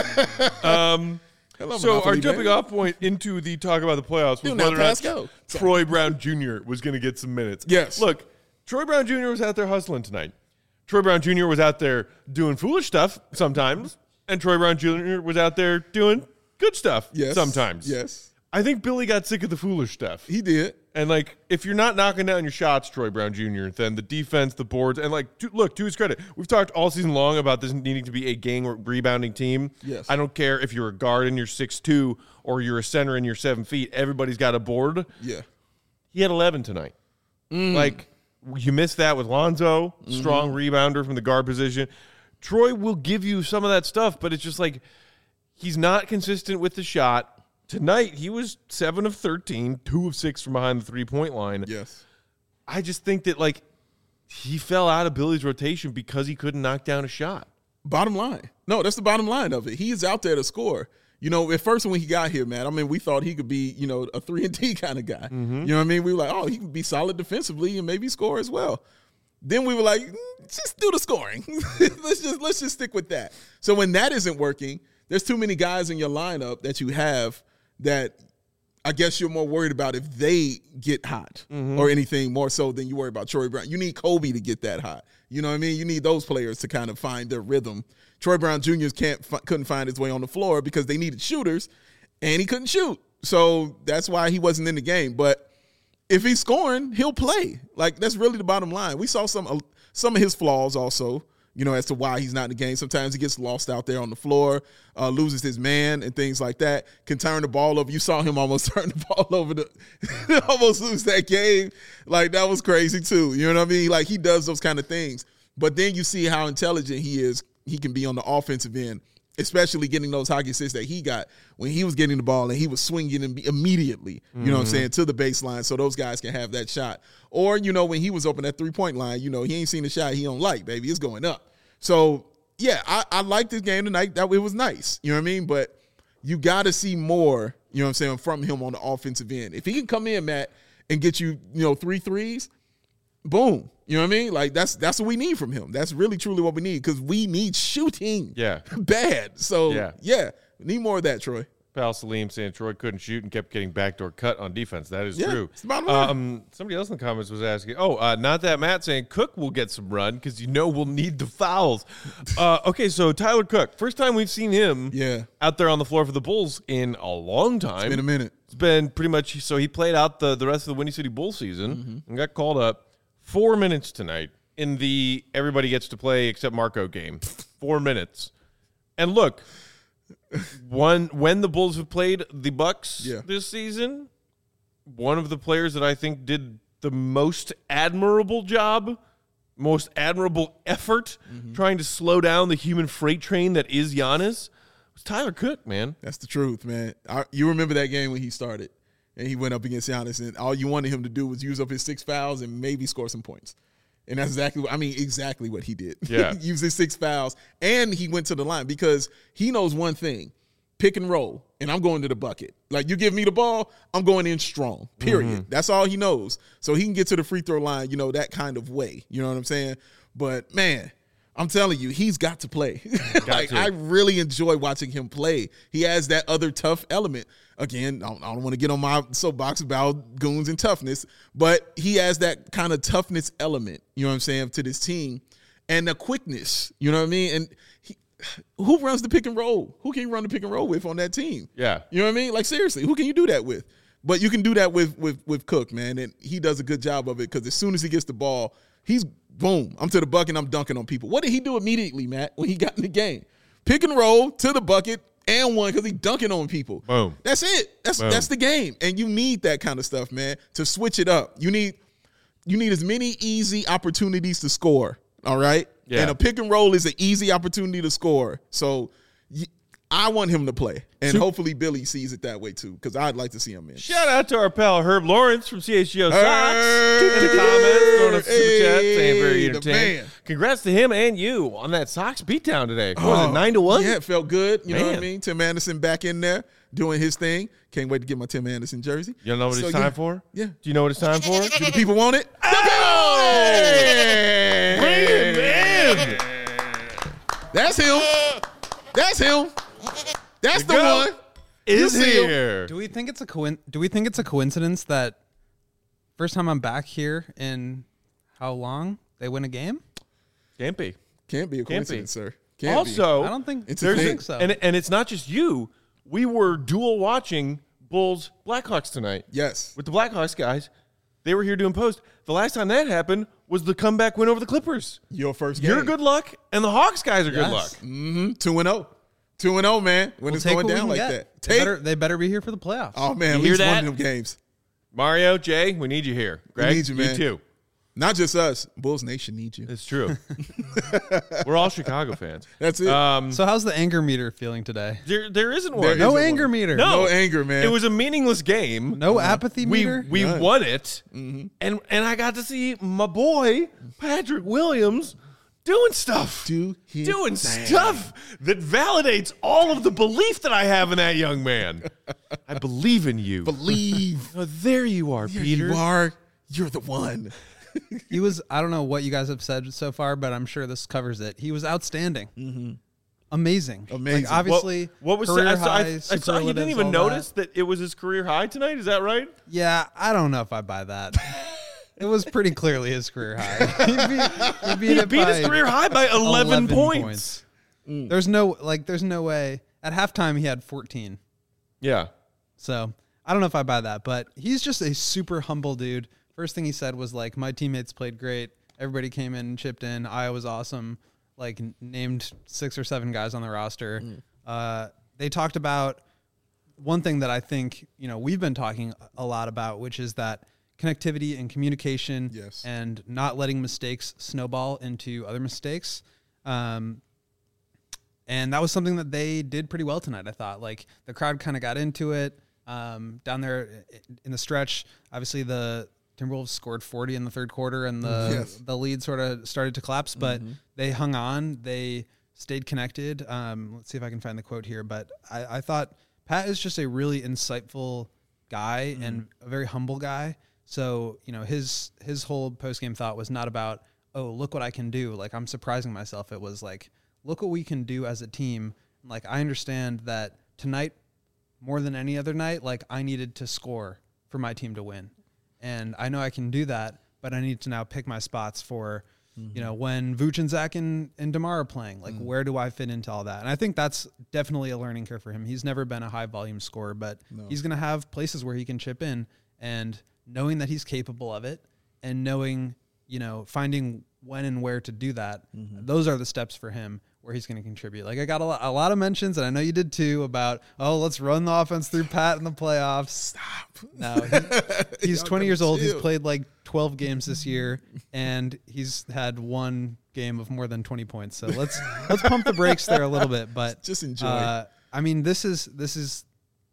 Speaker 1: um,
Speaker 2: Hello,
Speaker 1: so
Speaker 2: Monopoly
Speaker 1: our jumping
Speaker 2: man.
Speaker 1: off point into the talk about the playoffs was
Speaker 2: Do not
Speaker 1: whether or
Speaker 2: pass
Speaker 1: not
Speaker 2: go.
Speaker 1: Troy Brown Junior was going to get some minutes.
Speaker 2: Yes.
Speaker 1: Look, Troy Brown Junior was out there hustling tonight. Troy Brown Junior was out there doing foolish stuff sometimes, and Troy Brown Junior was out there doing good stuff
Speaker 2: Yes.
Speaker 1: sometimes.
Speaker 2: Yes.
Speaker 1: I think Billy got sick of the foolish stuff.
Speaker 2: He did.
Speaker 1: And, like, if you're not knocking down your shots, Troy Brown Junior, then the defense, the boards, and, like, to, look, to his credit, we've talked all season long about this needing to be a gang rebounding team.
Speaker 2: Yes.
Speaker 1: I don't care if you're a guard and you're six two or you're a center and you're seven feet. Everybody's got a board.
Speaker 2: Yeah.
Speaker 1: He had eleven tonight. Mm. Like, you missed that with Lonzo, strong mm-hmm. rebounder from the guard position. Troy will give you some of that stuff, but it's just like he's not consistent with the shot. Tonight, he was seven of thirteen, two of six from behind the three-point line.
Speaker 2: Yes.
Speaker 1: I just think that, like, he fell out of Billy's rotation because he couldn't knock down a shot.
Speaker 2: Bottom line. No, that's the bottom line of it. He is out there to score. You know, at first when he got here, man, I mean, we thought he could be, you know, a three and D kind of guy. Mm-hmm. You know what I mean? We were like, oh, he can be solid defensively and maybe score as well. Then we were like, mm, just do the scoring. let's just let's just stick with that. So when that isn't working, there's too many guys in your lineup that you have that I guess you're more worried about if they get hot mm-hmm. or anything more so than you worry about Troy Brown. You need Kobe to get that hot. You know what I mean? You need those players to kind of find their rhythm. Troy Brown Junior can't couldn't find his way on the floor because they needed shooters, and he couldn't shoot. So that's why he wasn't in the game. But if he's scoring, he'll play. Like, that's really the bottom line. We saw some some of his flaws also, you know, as to why he's not in the game. Sometimes he gets lost out there on the floor, uh, loses his man and things like that, can turn the ball over. You saw him almost turn the ball over, to almost lose that game. Like, that was crazy too. You know what I mean? Like, he does those kind of things. But then you see how intelligent he is. He can be on the offensive end, especially getting those hockey assists that he got when he was getting the ball and he was swinging immediately, you mm-hmm. know what I'm saying, to the baseline so those guys can have that shot. Or, you know, when he was open at three-point line, you know, he ain't seen a shot he don't like, baby. It's going up. So, yeah, I, I liked this game tonight. That it was nice, you know what I mean? But you got to see more, you know what I'm saying, from him on the offensive end. If he can come in, Matt, and get you, you know, three threes, boom. You know what I mean? Like, that's that's what we need from him. That's really, truly what we need because we need shooting.
Speaker 1: Yeah.
Speaker 2: Bad. So,
Speaker 1: yeah.
Speaker 2: yeah, we need more of that, Troy.
Speaker 1: Pal Salim saying Troy couldn't shoot and kept getting backdoor cut on defense. That is
Speaker 2: yeah,
Speaker 1: true.
Speaker 2: It's the bottom line.
Speaker 1: Um, somebody else in the comments was asking, oh, uh, not that Matt saying Cook will get some run because you know we'll need the fouls. uh, okay, so Tyler Cook, first time we've seen him
Speaker 2: yeah.
Speaker 1: out there on the floor for the Bulls in a long time.
Speaker 2: It's been a minute.
Speaker 1: It's been pretty much, so he played out the, the rest of the Windy City Bulls season mm-hmm. and got called up. Four minutes tonight in the everybody gets to play except Marco game. Four minutes. And look, one when the Bulls have played the Bucks
Speaker 2: yeah.
Speaker 1: this season, one of the players that I think did the most admirable job, most admirable effort mm-hmm. trying to slow down the human freight train that is Giannis was Tyler Cook, man.
Speaker 2: That's the truth, man. I, you remember that game when he started and he went up against Giannis, and all you wanted him to do was use up his six fouls and maybe score some points. And that's exactly what, I mean, exactly what he did.
Speaker 1: Yeah.
Speaker 2: Use his six fouls, and he went to the line because he knows one thing. Pick and roll, and I'm going to the bucket. Like, you give me the ball, I'm going in strong, period. Mm-hmm. That's all he knows. So he can get to the free throw line, you know, that kind of way. You know what I'm saying? But, man, I'm telling you, he's got to play. like, to. I really enjoy watching him play. He has that other tough element. Again, I don't, I don't want to get on my soapbox about goons and toughness, but he has that kind of toughness element, you know what I'm saying, to this team, and the quickness, you know what I mean? And he, who runs the pick and roll? Who can you run the pick and roll with on that team?
Speaker 1: Yeah.
Speaker 2: You know what I mean? Like, seriously, who can you do that with? But you can do that with with with Cook, man, and he does a good job of it because as soon as he gets the ball, he's, boom, I'm to the bucket, I'm dunking on people. What did he do immediately, Matt, when he got in the game? Pick and roll to the bucket, and one because he's dunking on people.
Speaker 1: Boom.
Speaker 2: That's it. That's
Speaker 1: Boom.
Speaker 2: That's the game. And you need that kind of stuff, man, to switch it up. You need you need as many easy opportunities to score, all right?
Speaker 1: Yeah.
Speaker 2: And a pick and roll is an easy opportunity to score. So y- I want him to play. And
Speaker 1: Super-
Speaker 2: hopefully Billy sees it that way too, because I'd like to see him in.
Speaker 1: Shout out to our pal Herb Lawrence from C H G O Sox
Speaker 2: Hey,
Speaker 1: in the comments, throwing us a super chat,
Speaker 2: hey,
Speaker 1: saying very
Speaker 2: the
Speaker 1: entertaining.
Speaker 2: man.
Speaker 1: Congrats to him and you on that Sox beatdown today. What was it, nine to one?
Speaker 2: Yeah, it felt good. You know what I
Speaker 1: Man.
Speaker 2: mean? Tim Anderson back in there doing his thing. Can't wait to get my Tim Anderson jersey.
Speaker 1: You know what
Speaker 2: So,
Speaker 1: it's
Speaker 2: yeah.
Speaker 1: time for?
Speaker 2: Yeah.
Speaker 1: Do you know what it's time for?
Speaker 2: Do the people want it?
Speaker 1: Oh! Bring him in.
Speaker 2: That's him. That's him. That's the
Speaker 1: go.
Speaker 2: one.
Speaker 1: Is
Speaker 2: You see him.
Speaker 1: here.
Speaker 5: Do we think it's a coin? Do we think it's a coincidence that first time I'm back here in how long they win a game?
Speaker 1: Can't be.
Speaker 2: Can't be a
Speaker 1: Can't be.
Speaker 2: coincidence, sir. Can't
Speaker 1: Also,
Speaker 5: I don't think
Speaker 2: It's a
Speaker 1: there's
Speaker 2: thing.
Speaker 5: I think so.
Speaker 1: and and it's not just you. We were dual watching Bulls Blackhawks tonight
Speaker 2: be. Yes.
Speaker 1: with the Blackhawks guys. They were here doing post. The last time that happened was the comeback win over the Clippers.
Speaker 2: Your first game.
Speaker 1: You're good luck, and the Hawks guys are good
Speaker 5: Yes.
Speaker 1: luck.
Speaker 2: Mm-hmm. Two and oh. Two and oh, man. When
Speaker 5: We'll
Speaker 2: it's
Speaker 5: take
Speaker 2: going
Speaker 5: what we
Speaker 2: down
Speaker 5: can
Speaker 2: like
Speaker 5: get.
Speaker 2: that.
Speaker 5: They
Speaker 2: Take.
Speaker 5: better, they better be here for the playoffs.
Speaker 2: Oh, man. At
Speaker 1: You hear
Speaker 2: least one
Speaker 1: that?
Speaker 2: of them games.
Speaker 1: Mario, Jay, we need you here. Greg,
Speaker 2: need you, man.
Speaker 1: too.
Speaker 2: Not just us. Bulls Nation needs you.
Speaker 1: It's true. We're all Chicago fans.
Speaker 2: That's it.
Speaker 1: Um,
Speaker 5: So how's the anger meter feeling today?
Speaker 1: there, there isn't
Speaker 2: There
Speaker 1: one.
Speaker 5: No
Speaker 2: isn't
Speaker 5: anger
Speaker 2: one.
Speaker 5: meter.
Speaker 1: No.
Speaker 2: No anger, man.
Speaker 1: It was a meaningless game.
Speaker 5: No apathy
Speaker 1: we
Speaker 5: meter.
Speaker 1: we
Speaker 2: None.
Speaker 1: won it,
Speaker 2: Mm-hmm.
Speaker 1: and and I got to see my boy Patrick Williams doing stuff,
Speaker 2: Do his
Speaker 1: doing
Speaker 2: thing.
Speaker 1: stuff that validates all of the belief that I have in that young man. I believe in you.
Speaker 2: Believe.
Speaker 1: Oh, there you are,
Speaker 2: Here
Speaker 1: Peter.
Speaker 2: you are. You're the one.
Speaker 5: He was. I don't know what you guys have said so far, but I'm sure this covers it. He was outstanding. Mm-hmm. Amazing.
Speaker 2: Amazing.
Speaker 5: Like, obviously,
Speaker 1: What, what was
Speaker 5: career
Speaker 1: I, saw, I,
Speaker 5: highs,
Speaker 1: I saw you didn't
Speaker 5: superlatives,
Speaker 1: even
Speaker 5: all
Speaker 1: notice
Speaker 5: that.
Speaker 1: that. it was his career high tonight. Is that right?
Speaker 5: Yeah, I don't know if I buy that. It was pretty clearly his career high. he beat, he beat,
Speaker 1: He
Speaker 5: it
Speaker 1: beat
Speaker 5: by
Speaker 1: his career high by eleven, points.
Speaker 5: There's no like. There's no way. At halftime, he had fourteen.
Speaker 1: Yeah.
Speaker 5: So I don't know if I buy that, but he's just a super humble dude. First thing he said was like, "My teammates played great. Everybody came in and chipped in. I was awesome." Like n- named six or seven guys on the roster. Uh, they talked about one thing that I think you know we've been talking a lot about, which is that connectivity and communication,
Speaker 2: Yes.
Speaker 5: and not letting mistakes snowball into other mistakes. Um, and that was something that they did pretty well tonight. I thought like the crowd kind of got into it um, down there in the stretch. Obviously the Timberwolves scored forty in the third quarter and the,
Speaker 2: Yes.
Speaker 5: the lead sort of started to collapse, but they hung on. They stayed connected. Um, let's see if I can find the quote here, but I, I thought Pat is just a really insightful guy and a very humble guy. So, you know, his his whole post-game thought was not about, oh, look what I can do. Like, I'm surprising myself. It was like, look what we can do as a team. Like, I understand that tonight, more than any other night, like, I needed to score for my team to win. And I know I can do that, but I need to now pick my spots for, you know, when Vooch and Zach and, and DeMar are playing. Like, where do I fit into all that? And I think that's definitely a learning curve for him. He's never been a high-volume scorer, but he's going to have places where he can chip in. And knowing that he's capable of it and knowing, you know, finding when and where to do that, those are the steps for him. where he's going to contribute. Like I got a lot, a lot of mentions, and I know you did too, about, oh, let's run the offense through Pat in the playoffs.
Speaker 2: Stop.
Speaker 5: No, he, he's
Speaker 2: Y'all
Speaker 5: twenty
Speaker 2: gotta
Speaker 5: years old. He's
Speaker 2: chill.
Speaker 5: played like twelve games this year, and he's had one game of more than twenty points. So let's let's pump the brakes there a little bit. But
Speaker 2: Just enjoy.
Speaker 5: Uh, I mean, this is this is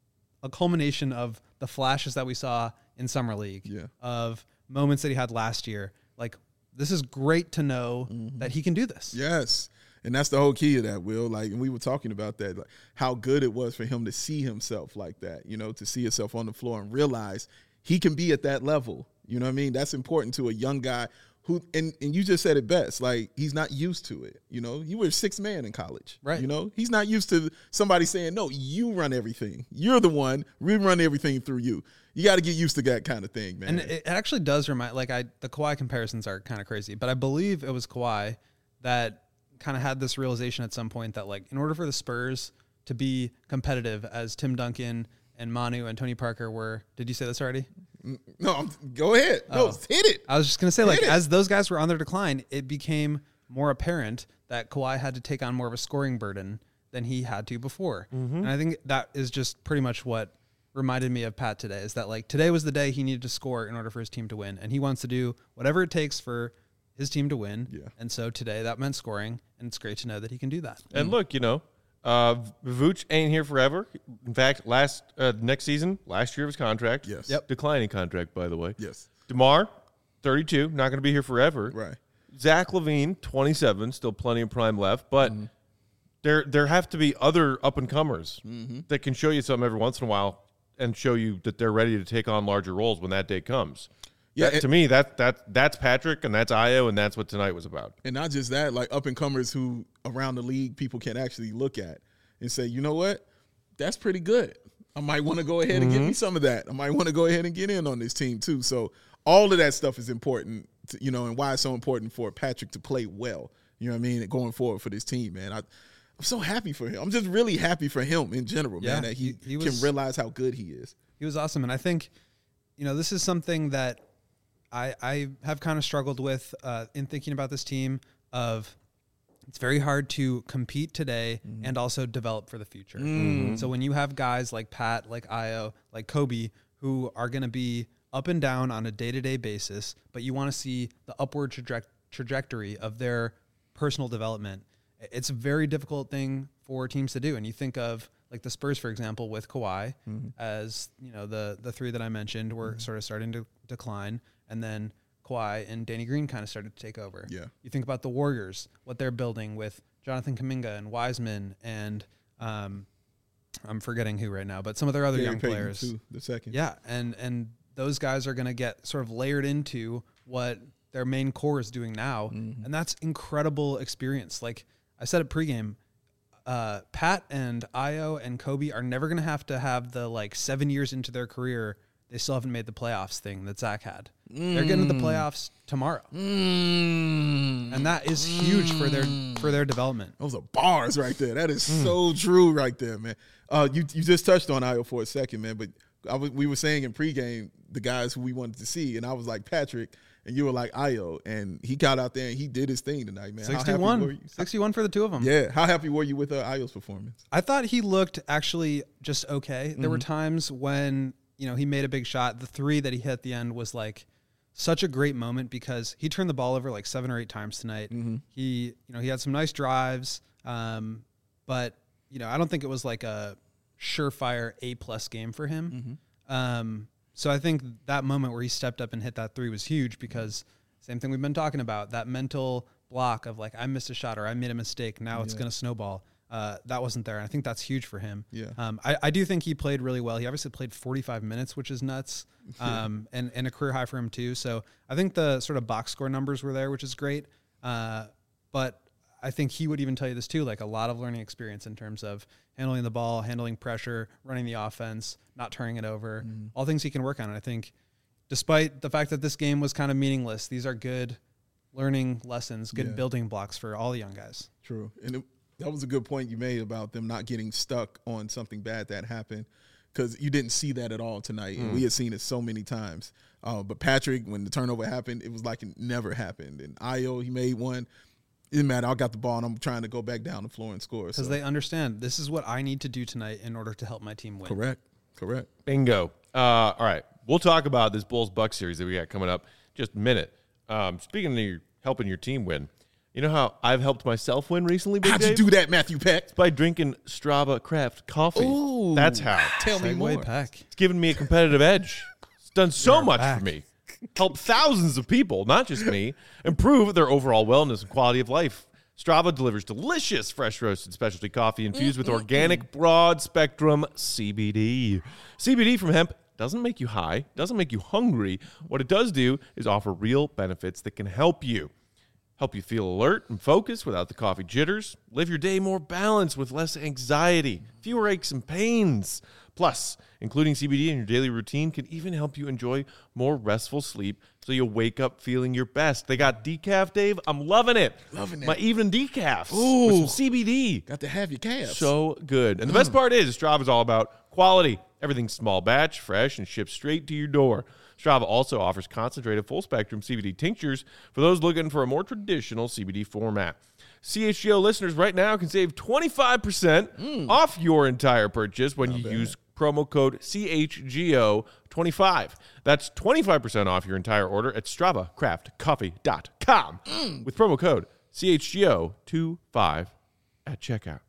Speaker 5: a culmination of the flashes that we saw in summer league,
Speaker 2: Yeah.
Speaker 5: of moments that he had last year. Like, this is great to know
Speaker 2: Mm-hmm.
Speaker 5: that he can do this.
Speaker 2: Yes. And that's the whole key of that, Will. Like, and we were talking about that, like how good it was for him to see himself like that, you know, to see himself on the floor and realize he can be at that level. You know what I mean? That's important to a young guy who, and, and you just said it best, like he's not used to it. You know, you were sixth man in college,
Speaker 5: Right.
Speaker 2: You know, he's not used to somebody saying, no, you run everything. You're the one. We run everything through you. You got to get used to that kind of thing, man.
Speaker 5: And it actually does remind, like, I the Kawhi comparisons are kind of crazy, but I believe it was Kawhi that kind of had this realization at some point that, like, in order for the Spurs to be competitive, as Tim Duncan and Manu and Tony Parker were, did you say this already?
Speaker 2: no, I'm, go ahead. No,
Speaker 5: Oh.
Speaker 2: hit it.
Speaker 5: I was just gonna say, like,
Speaker 2: Hit it.
Speaker 5: as those guys were on their decline, it became more apparent that Kawhi had to take on more of a scoring burden than he had to before. And I think that is just pretty much what reminded me of Pat today, is that, like, today was the day he needed to score in order for his team to win, and he wants to do whatever it takes for his team to win.
Speaker 2: Yeah.
Speaker 5: And so today that meant scoring, and it's great to know that he can do that.
Speaker 1: And look, you know, uh, Vooch ain't here forever. In fact, last uh, next season, last year of his contract.
Speaker 2: Yes.
Speaker 5: Yep.
Speaker 1: Declining contract, by the way.
Speaker 2: Yes.
Speaker 1: DeMar, thirty-two, not going to be here forever.
Speaker 2: Right.
Speaker 1: Zach LaVine, twenty-seven, still plenty of prime left, but there there have to be other up and comers that can show you something every once in a while and show you that they're ready to take on larger roles when that day comes.
Speaker 2: Yeah,
Speaker 1: That-
Speaker 2: and-
Speaker 1: to me, that that that's Patrick and that's Io, and that's what tonight was about.
Speaker 2: And not just that, like up and comers who around the league people can actually look at and say, you know what, that's pretty good. I might want to go ahead and get me some of that. I might want to go ahead and get in on this team too. So all of that stuff is important, to, you know, and why it's so important for Patrick to play well. You know what I mean? Going forward for this team, man. I, I'm so happy for him. I'm just really happy for him in general,
Speaker 5: Yeah,
Speaker 2: man, that he,
Speaker 5: he- he
Speaker 2: can
Speaker 5: was-
Speaker 2: realize how good he is.
Speaker 5: He was awesome. And I think, you know, this is something that I, I have kind of struggled with uh, in thinking about this team of it's very hard to compete today and also develop for the future. So when you have guys like Pat, like Io, like Kobe, who are going to be up and down on a day-to-day basis, but you want to see the upward traje- trajectory of their personal development, it's a very difficult thing for teams to do. And you think of like the Spurs, for example, with Kawhi, as you know, the the three that I mentioned were sort of starting to decline, and then Kawhi and Danny Green kind of started to take over.
Speaker 2: Yeah.
Speaker 5: You think about the Warriors, what they're building with Jonathan Kuminga and Wiseman, and um, I'm forgetting who right now, but some of their other
Speaker 2: Gary
Speaker 5: young
Speaker 2: Payton,
Speaker 5: players.
Speaker 2: too, the second.
Speaker 5: Yeah, and and those guys are going to get sort of layered into what their main core is doing now, and that's incredible experience. Like I said at pregame, uh, Pat and Io and Kobe are never going to have to have the like seven years into their career they still haven't made the playoffs thing that Zach had. They're getting to the playoffs tomorrow,
Speaker 2: Mm.
Speaker 5: and that is huge for their for their development.
Speaker 2: Those are bars right there. That is so true right there, man. Uh, you you just touched on Io for a second, man, but I was, we were saying in pregame the guys who we wanted to see, and I was like Patrick, and you were like Io, and he got out there and he did his thing tonight, man. How happy were
Speaker 5: sixty-one,
Speaker 2: you?
Speaker 5: sixty-one for the two of them.
Speaker 2: Yeah, how happy were you with uh, Io's performance?
Speaker 5: I thought he looked actually just okay. There were times when, you know, he made a big shot. The three that he hit at the end was like such a great moment because he turned the ball over like seven or eight times tonight. He, you know, he had some nice drives, um, but you know, I don't think it was like a surefire A plus game for him. Um, so I think that moment where he stepped up and hit that three was huge because same thing we've been talking about, that mental block of like, I missed a shot or I made a mistake. Now it's going to snowball. Uh, that wasn't there. And I think that's huge for him.
Speaker 2: Yeah.
Speaker 5: Um, I, I do think he played really well. He obviously played forty-five minutes, which is nuts. Um, and, and a career high for him too. So I think the sort of box score numbers were there, which is great. Uh, but I think he would even tell you this too, like a lot of learning experience in terms of handling the ball, handling pressure, running the offense, not turning it over, all things he can work on. And I think despite the fact that this game was kind of meaningless, these are good learning lessons, good
Speaker 2: Yeah.
Speaker 5: building blocks for all the young guys.
Speaker 2: True. And it, that was a good point you made about them not getting stuck on something bad that happened because you didn't see that at all tonight. And we had seen it so many times. Uh, but Patrick, when the turnover happened, it was like it never happened. And Io, he made one. It didn't matter. I got the ball, and I'm trying to go back down the floor and score.
Speaker 5: Because
Speaker 2: So.
Speaker 5: they understand this is what I need to do tonight in order to help my team win.
Speaker 2: Correct. Correct.
Speaker 1: Bingo. Uh, all right. We'll talk about this Bulls Bucks series that we got coming up in just a minute. Um, speaking of your, helping your team win, you know how I've helped myself win recently, Big
Speaker 2: How'd
Speaker 1: Dave?
Speaker 2: you do that, Matthew Peck?
Speaker 1: By drinking Strava Craft coffee.
Speaker 2: Ooh.
Speaker 1: That's how.
Speaker 2: Tell me
Speaker 5: Segway
Speaker 2: more.
Speaker 5: Pack.
Speaker 1: It's given me a competitive edge. It's done so
Speaker 5: You're
Speaker 1: much
Speaker 5: back.
Speaker 1: for me. Helped thousands of people, not just me, improve their overall wellness and quality of life. Strava delivers delicious, fresh roasted specialty coffee infused with organic, broad spectrum C B D. C B D from hemp doesn't make you high, doesn't make you hungry. What it does do is offer real benefits that can help you. Help you feel alert and focused without the coffee jitters. Live your day more balanced with less anxiety, fewer aches and pains. Plus, including C B D in your daily routine can even help you enjoy more restful sleep so you'll wake up feeling your best. They got decaf, Dave. I'm loving it.
Speaker 2: Loving it.
Speaker 1: My evening decaf
Speaker 2: Ooh.
Speaker 1: with some C B D.
Speaker 2: Got to have your calves.
Speaker 1: So good. And the best part is Strava is all about quality. Everything's small batch, fresh, and shipped straight to your door. Strava also offers concentrated full-spectrum C B D tinctures for those looking for a more traditional C B D format. C H G O listeners right now can save twenty-five percent off your entire purchase when you use promo code C H G O twenty-five. That's twenty-five percent off your entire order at strava craft coffee dot com with promo code C H G O twenty-five at checkout.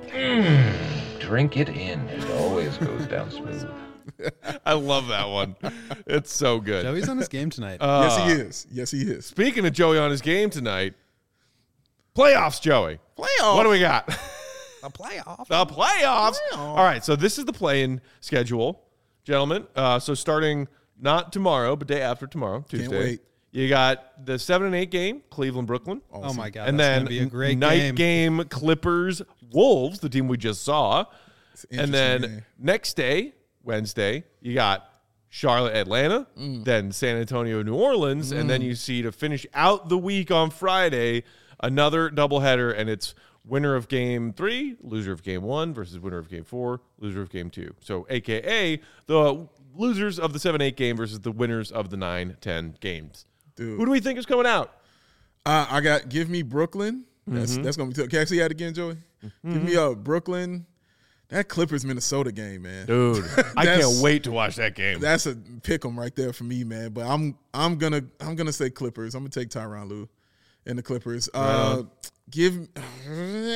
Speaker 6: Drink it in. It always goes down smooth.
Speaker 1: I love that one. It's so good.
Speaker 5: Joey's on his game tonight.
Speaker 2: Yes, he is. Yes, he is.
Speaker 1: Speaking of Joey on his game tonight, playoffs, Joey.
Speaker 2: Playoffs.
Speaker 1: What do we got?
Speaker 5: a playoff.
Speaker 1: The playoffs. All right, so this is the play-in schedule, gentlemen. Uh, so starting not tomorrow, but day after tomorrow, Tuesday.
Speaker 2: wait.
Speaker 1: You got the seven and eight game, Cleveland Brooklyn,
Speaker 5: Oh my god.
Speaker 1: and
Speaker 5: that's
Speaker 1: then
Speaker 5: gonna be a great
Speaker 1: night
Speaker 5: game.
Speaker 1: game Clippers Wolves, the team we just saw,
Speaker 2: an
Speaker 1: and then
Speaker 2: interesting game.
Speaker 1: next day Wednesday you got Charlotte Atlanta,
Speaker 2: Mm.
Speaker 1: then San Antonio New Orleans, and then you see to finish out the week on Friday another doubleheader, and it's winner of game three, loser of game one versus winner of game four, loser of game two. So A K A the losers of the seven eight game versus the winners of the nine ten games.
Speaker 2: Dude.
Speaker 1: Who do we think is coming out?
Speaker 2: Uh, I got give me Brooklyn. That's
Speaker 1: Mm-hmm.
Speaker 2: that's gonna be tough. Can I see that again, Joey? Give me uh Brooklyn. That Clippers Minnesota game, man.
Speaker 1: Dude, I
Speaker 2: That's-
Speaker 1: can't wait to watch that game.
Speaker 2: That's a pick 'em right there for me, man. But I'm I'm gonna I'm gonna say Clippers. I'm gonna take Tyronn Lue and the Clippers. Uh, give give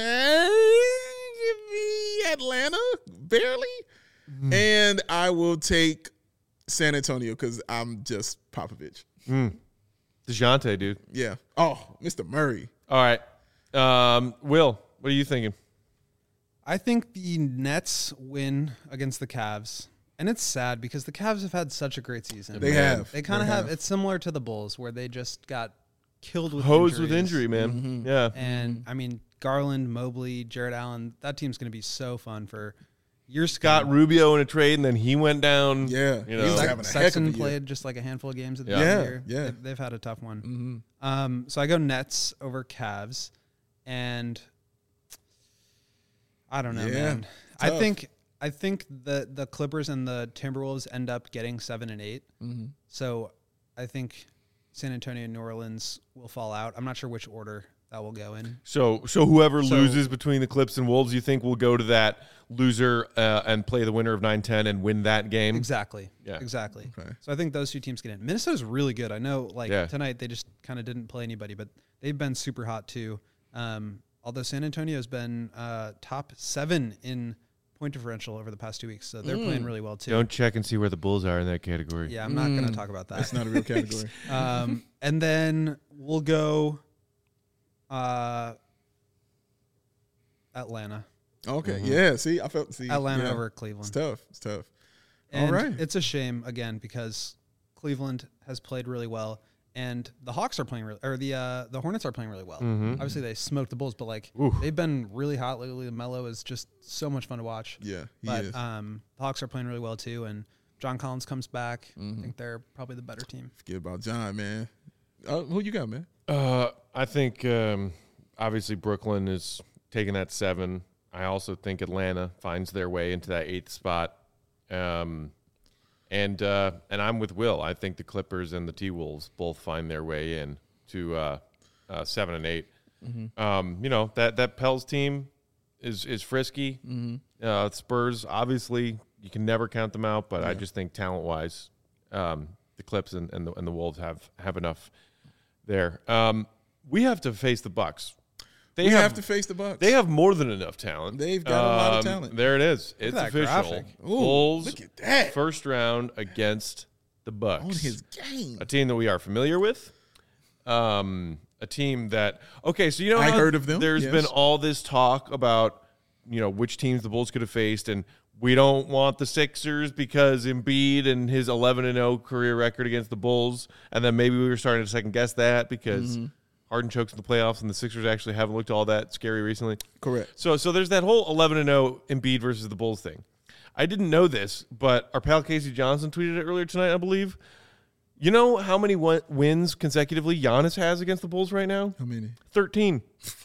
Speaker 2: me Atlanta barely,
Speaker 1: Mm-hmm.
Speaker 2: and I will take San Antonio because I'm just Popovich.
Speaker 1: DeJounte, dude.
Speaker 2: Yeah. Oh, Mister Murray.
Speaker 1: All right. Um, Will, what are you thinking?
Speaker 5: I think the Nets win against the Cavs. And it's sad because the Cavs have had such a great season.
Speaker 2: They have.
Speaker 5: They kind of
Speaker 2: They
Speaker 5: have.
Speaker 2: have.
Speaker 5: It's similar to the Bulls where they just got killed with
Speaker 1: Hosed with
Speaker 5: injuries.
Speaker 1: injury, man.
Speaker 2: Mm-hmm.
Speaker 1: Yeah.
Speaker 5: And I mean, Garland, Mobley, Jared Allen, that team's going to be so fun for years to
Speaker 1: Got
Speaker 5: come.
Speaker 1: Rubio in a trade, and then he went down.
Speaker 2: Yeah.
Speaker 1: You
Speaker 2: He was
Speaker 1: know.
Speaker 2: having a heck of a
Speaker 5: Sexton
Speaker 2: year.
Speaker 5: played just like a handful of games at the
Speaker 1: Yeah.
Speaker 5: end of the
Speaker 2: Yeah,
Speaker 5: year.
Speaker 2: yeah.
Speaker 5: They- They've had a tough one. Um, so I go Nets over Cavs, and I don't know,
Speaker 2: Yeah,
Speaker 5: man. I
Speaker 2: tough.
Speaker 5: think I think the the Clippers and the Timberwolves end up getting seven and 8
Speaker 2: Mm-hmm.
Speaker 5: So I think San Antonio and New Orleans will fall out. I'm not sure which order that will go in.
Speaker 1: So, so whoever
Speaker 5: So-
Speaker 1: loses between the Clips and Wolves, you think will go to that loser uh, and play the winner of nine ten and win that game?
Speaker 5: Exactly.
Speaker 1: Yeah.
Speaker 5: Exactly.
Speaker 2: Okay.
Speaker 5: So I think those two teams get in. Minnesota's really good. I know, like
Speaker 1: Yeah.
Speaker 5: tonight they just kind of didn't play anybody, but they've been super hot too. Um, although San Antonio's been uh, top seven in point differential over the past two weeks, so they're playing really well too.
Speaker 1: Don't check and see where the Bulls are in that category.
Speaker 5: Yeah, I'm not going to talk about that.
Speaker 2: That's not a real category.
Speaker 5: um, and then we'll go uh, Atlanta.
Speaker 2: Okay. Yeah. See, I felt see
Speaker 5: Atlanta
Speaker 2: yeah.
Speaker 5: over
Speaker 2: It's
Speaker 5: Cleveland.
Speaker 2: tough. It's tough.
Speaker 5: And
Speaker 2: All right.
Speaker 5: it's a shame again because Cleveland has played really well, and the Hawks are playing really, or the uh, the Hornets are playing really well. Obviously, they smoked the Bulls, but like they've been really hot lately. Melo is just so much fun to watch.
Speaker 2: Yeah, he
Speaker 5: but
Speaker 2: is.
Speaker 5: um, the Hawks are playing really well too, and John Collins comes back. I think they're probably the better team.
Speaker 2: Forget about John, man. Uh, who you got, man?
Speaker 1: Uh, I think um, obviously Brooklyn is taking that seven. I also think Atlanta finds their way into that eighth spot. Um, and uh, and I'm with Will. I think the Clippers and the T Wolves both find their way in to uh, uh, seven and eight.
Speaker 2: Mm-hmm.
Speaker 1: Um, you know, that, that Pels team is, is frisky.
Speaker 2: Mm-hmm.
Speaker 1: Uh, Spurs, obviously, you can never count them out, but
Speaker 2: Yeah.
Speaker 1: I just think talent-wise, um, the Clips and, and, the, and the Wolves have, have enough there. Um, we have to face the Bucks. They
Speaker 2: we
Speaker 1: have,
Speaker 2: have to face the Bucks.
Speaker 1: They have more than enough talent.
Speaker 2: They've got a lot of
Speaker 1: Um,
Speaker 2: talent.
Speaker 1: There it is. It's
Speaker 5: that
Speaker 1: official.
Speaker 5: graphic.
Speaker 2: Ooh,
Speaker 1: Bulls
Speaker 2: look at that.
Speaker 1: first round against the Bucks.
Speaker 2: on his game.
Speaker 1: A team that we are familiar with. Um, a team that okay, so you know
Speaker 2: I
Speaker 1: how
Speaker 2: heard of them,
Speaker 1: There's
Speaker 2: yes.
Speaker 1: been all this talk about you know which teams the Bulls could have faced, and we don't want the Sixers because Embiid and his eleven and oh career record against the Bulls, and then maybe we were starting to second guess that because
Speaker 2: Mm-hmm.
Speaker 1: Harden chokes in the playoffs, and the Sixers actually haven't looked all that scary recently.
Speaker 2: Correct.
Speaker 1: So, so there's that whole eleven and oh Embiid versus the Bulls thing. I didn't know this, but our pal Casey Johnson tweeted it earlier tonight, I believe. You know how many win- wins consecutively Giannis has against the Bulls right now?
Speaker 2: How many?
Speaker 1: thirteen.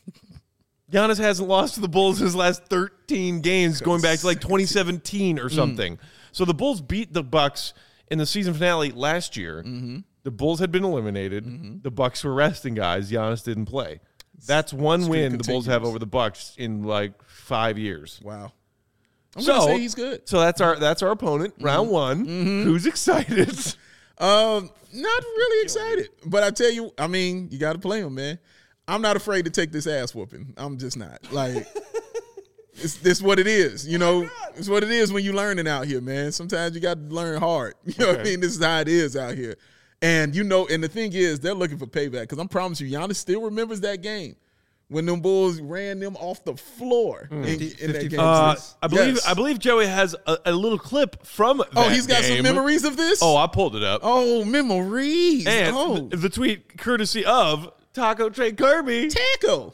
Speaker 1: Giannis hasn't lost to the Bulls in his last thirteen games, going back to like twenty seventeen or something. So the Bulls beat the Bucks in the season finale last year.
Speaker 2: Mm-hmm.
Speaker 1: The Bulls had been eliminated.
Speaker 2: Mm-hmm.
Speaker 1: The Bucks were resting guys. Giannis didn't play. That's one
Speaker 2: Streak
Speaker 1: win the Bulls have
Speaker 2: continues.
Speaker 1: over the Bucks in like five years.
Speaker 2: Wow. I'm
Speaker 1: so
Speaker 2: gonna say he's good.
Speaker 1: So that's our that's our opponent, round one. Who's excited?
Speaker 2: Um, not really excited, but I tell you, I mean, you got to play him, man. I'm not afraid to take this ass whooping. I'm just not like. It's this what it is, you know. It's what it is when you learning out here, man. Sometimes you got to learn hard. You know what I
Speaker 1: Okay.
Speaker 2: mean? This is how it is out here, and you know. And the thing is, they're looking for payback because I'm promise you, Giannis still remembers that game when them Bulls ran them off the floor in, in that
Speaker 5: fifty-five.
Speaker 2: game.
Speaker 1: Uh, I believe
Speaker 2: Yes.
Speaker 1: I believe Joey has a, a little clip from that
Speaker 2: Oh, he's got some
Speaker 1: game.
Speaker 2: memories of this.
Speaker 1: Oh, I pulled it up.
Speaker 2: oh, memories.
Speaker 1: and
Speaker 2: oh,
Speaker 1: the, the tweet courtesy of Taco Trey Kirby.
Speaker 2: tackle.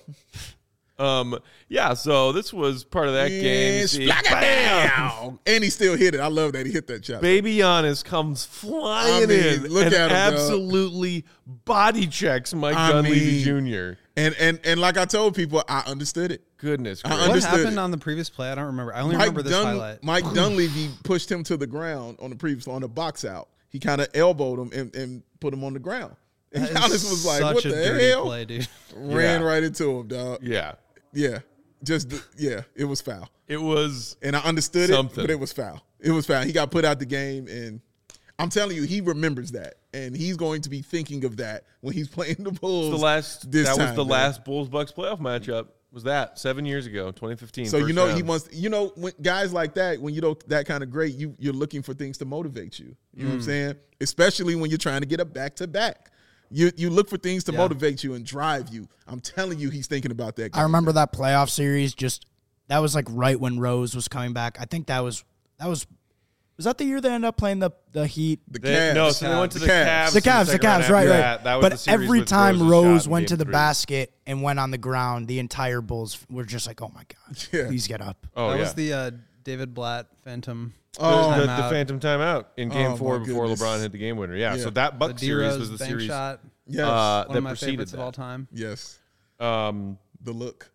Speaker 1: Um, yeah, so this was part of that game. You
Speaker 2: Yes,
Speaker 1: see,
Speaker 2: splack it
Speaker 1: bam!
Speaker 2: down. And he still hit it. I love that he hit that shot.
Speaker 1: Baby Giannis comes flying
Speaker 2: I mean,
Speaker 1: in
Speaker 2: look
Speaker 1: and
Speaker 2: at him, dog.
Speaker 1: absolutely body checks Mike
Speaker 2: I
Speaker 1: Dunleavy
Speaker 2: mean,
Speaker 1: Junior
Speaker 2: And and and like I told people, I understood it.
Speaker 1: Goodness
Speaker 2: I
Speaker 1: gracious.
Speaker 5: What
Speaker 2: understood
Speaker 5: happened
Speaker 2: it.
Speaker 5: on the previous play? I don't remember. I only
Speaker 2: Mike,
Speaker 5: remember this
Speaker 2: Dun-
Speaker 5: highlight.
Speaker 2: Mike Dunleavy pushed him to the ground on the previous on the box out. He kind of elbowed him and, and put him on the ground. And
Speaker 5: That
Speaker 2: Giannis
Speaker 5: is
Speaker 2: was like,
Speaker 5: such
Speaker 2: "What
Speaker 5: a
Speaker 2: the
Speaker 5: dirty
Speaker 2: hell?"
Speaker 5: play, dude.
Speaker 2: Ran
Speaker 1: Yeah.
Speaker 2: right into him, dog.
Speaker 1: Yeah,
Speaker 2: Yeah, just yeah, it was foul.
Speaker 1: it was.
Speaker 2: And I understood
Speaker 1: Something.
Speaker 2: it, but it was foul. It was foul. He got put out the game, and I'm telling you, he remembers that, and he's going to be thinking of that when he's playing the Bulls.
Speaker 1: The last
Speaker 2: this
Speaker 1: that was
Speaker 2: time,
Speaker 1: the
Speaker 2: man.
Speaker 1: last Bulls Bucks playoff matchup. Was that seven years ago, twenty fifteen?
Speaker 2: So you
Speaker 1: first
Speaker 2: know
Speaker 1: round.
Speaker 2: he wants. You know, when guys like that, when you know that kind of great, you you're looking for things to motivate you. You know what I'm
Speaker 1: Mm.
Speaker 2: saying? Especially when you're trying to get a back to back. You you look for things to
Speaker 5: Yeah.
Speaker 2: motivate you and drive you. I'm telling you, he's thinking about that.
Speaker 3: I remember that playoff series. Just that was like right when Rose was coming back. I think that was that was was that the year they ended up playing the the Heat.
Speaker 2: the
Speaker 1: They-
Speaker 2: Cavs.
Speaker 1: no, so they went to the
Speaker 2: The
Speaker 1: Cavs.
Speaker 2: Cavs.
Speaker 1: in
Speaker 3: The Cavs, the
Speaker 1: second round
Speaker 3: Cavs, right,
Speaker 1: after
Speaker 3: right.
Speaker 1: that. That was
Speaker 3: but
Speaker 1: the series
Speaker 3: every
Speaker 1: with
Speaker 3: time
Speaker 1: Rose's
Speaker 3: Rose
Speaker 1: shot in
Speaker 3: went
Speaker 1: game
Speaker 3: to the
Speaker 1: three.
Speaker 3: basket and went on the ground, the entire Bulls were just like, "Oh my god,
Speaker 2: Yeah.
Speaker 3: please get up."
Speaker 1: Oh
Speaker 5: that
Speaker 1: yeah.
Speaker 5: was the uh, David Blatt Phantom.
Speaker 2: Oh,
Speaker 1: the, the,
Speaker 5: timeout.
Speaker 1: the phantom timeout in game
Speaker 2: Oh,
Speaker 1: four
Speaker 2: my
Speaker 1: before
Speaker 2: goodness.
Speaker 1: LeBron hit the game winner. Yeah,
Speaker 2: Yeah.
Speaker 1: so that
Speaker 5: The
Speaker 1: Buck series
Speaker 5: D-Rose
Speaker 1: was the
Speaker 5: bank
Speaker 1: series
Speaker 5: shot.
Speaker 2: Yes,
Speaker 1: uh,
Speaker 5: One
Speaker 1: that
Speaker 5: of my
Speaker 1: preceded
Speaker 5: favorites
Speaker 1: that.
Speaker 5: of all time.
Speaker 2: yes.
Speaker 1: Um,
Speaker 2: The look.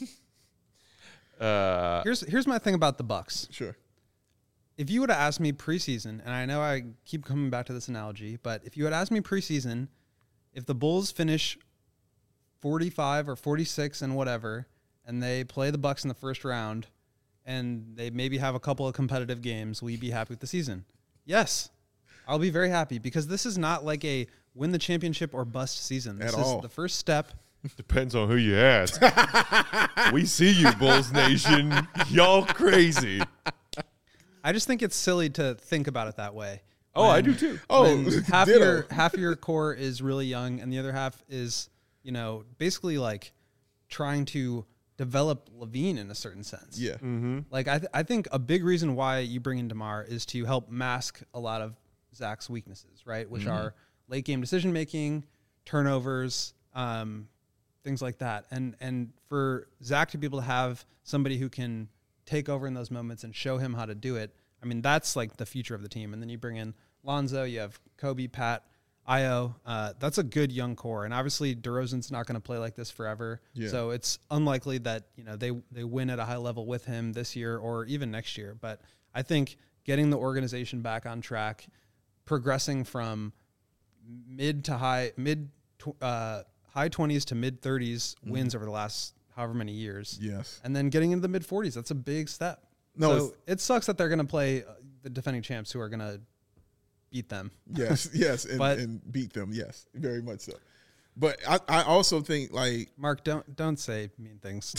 Speaker 1: uh,
Speaker 5: Here's here's my thing about the Bucks.
Speaker 2: Sure.
Speaker 5: If you would have asked me preseason, and I know I keep coming back to this analogy, but if you had asked me preseason, if the Bulls finish forty-five or forty-six and whatever, and they play the Bucks in the first round, and they maybe have a couple of competitive games, will you be happy with the season? Yes, I'll be very happy because this is not like a win the championship or bust season. This
Speaker 2: At
Speaker 5: is
Speaker 2: all.
Speaker 5: the first step.
Speaker 1: depends on who you ask. We see you, Bulls Nation. Y'all crazy.
Speaker 5: I just think it's silly to think about it that way.
Speaker 1: Oh, I
Speaker 5: When-
Speaker 1: do too.
Speaker 2: Oh,
Speaker 5: when half
Speaker 2: ditto.
Speaker 5: your half your core is really young and the other half is, you know, basically like trying to develop Levine in a certain sense.
Speaker 2: Yeah.
Speaker 1: Mm-hmm.
Speaker 5: Like I th- I think a big reason why you bring in DeMar is to help mask a lot of Zach's weaknesses, right? Which are late game decision making, turnovers, um, things like that. And and for Zach to be able to have somebody who can take over in those moments and show him how to do it, I mean, that's like the future of the team. And then you bring in Lonzo, you have Kobe, Pat, Io. Uh, that's a good young core. And obviously DeRozan's not going to play like this forever.
Speaker 2: Yeah.
Speaker 5: So it's unlikely that, you know, they, they win at a high level with him this year or even next year. But I think getting the organization back on track, progressing from mid to high, mid, to, uh, high high twenties to mid thirties mm-hmm. wins over the last however many years.
Speaker 2: Yes.
Speaker 5: And then getting into the mid forties, that's a big step.
Speaker 2: No,
Speaker 5: so it sucks that they're going to play the defending champs who are going to beat them.
Speaker 2: Yes, yes, and,
Speaker 5: but,
Speaker 2: and beat them. Yes, very much so. But I, I also think, like,
Speaker 5: Mark, don't don't say mean things.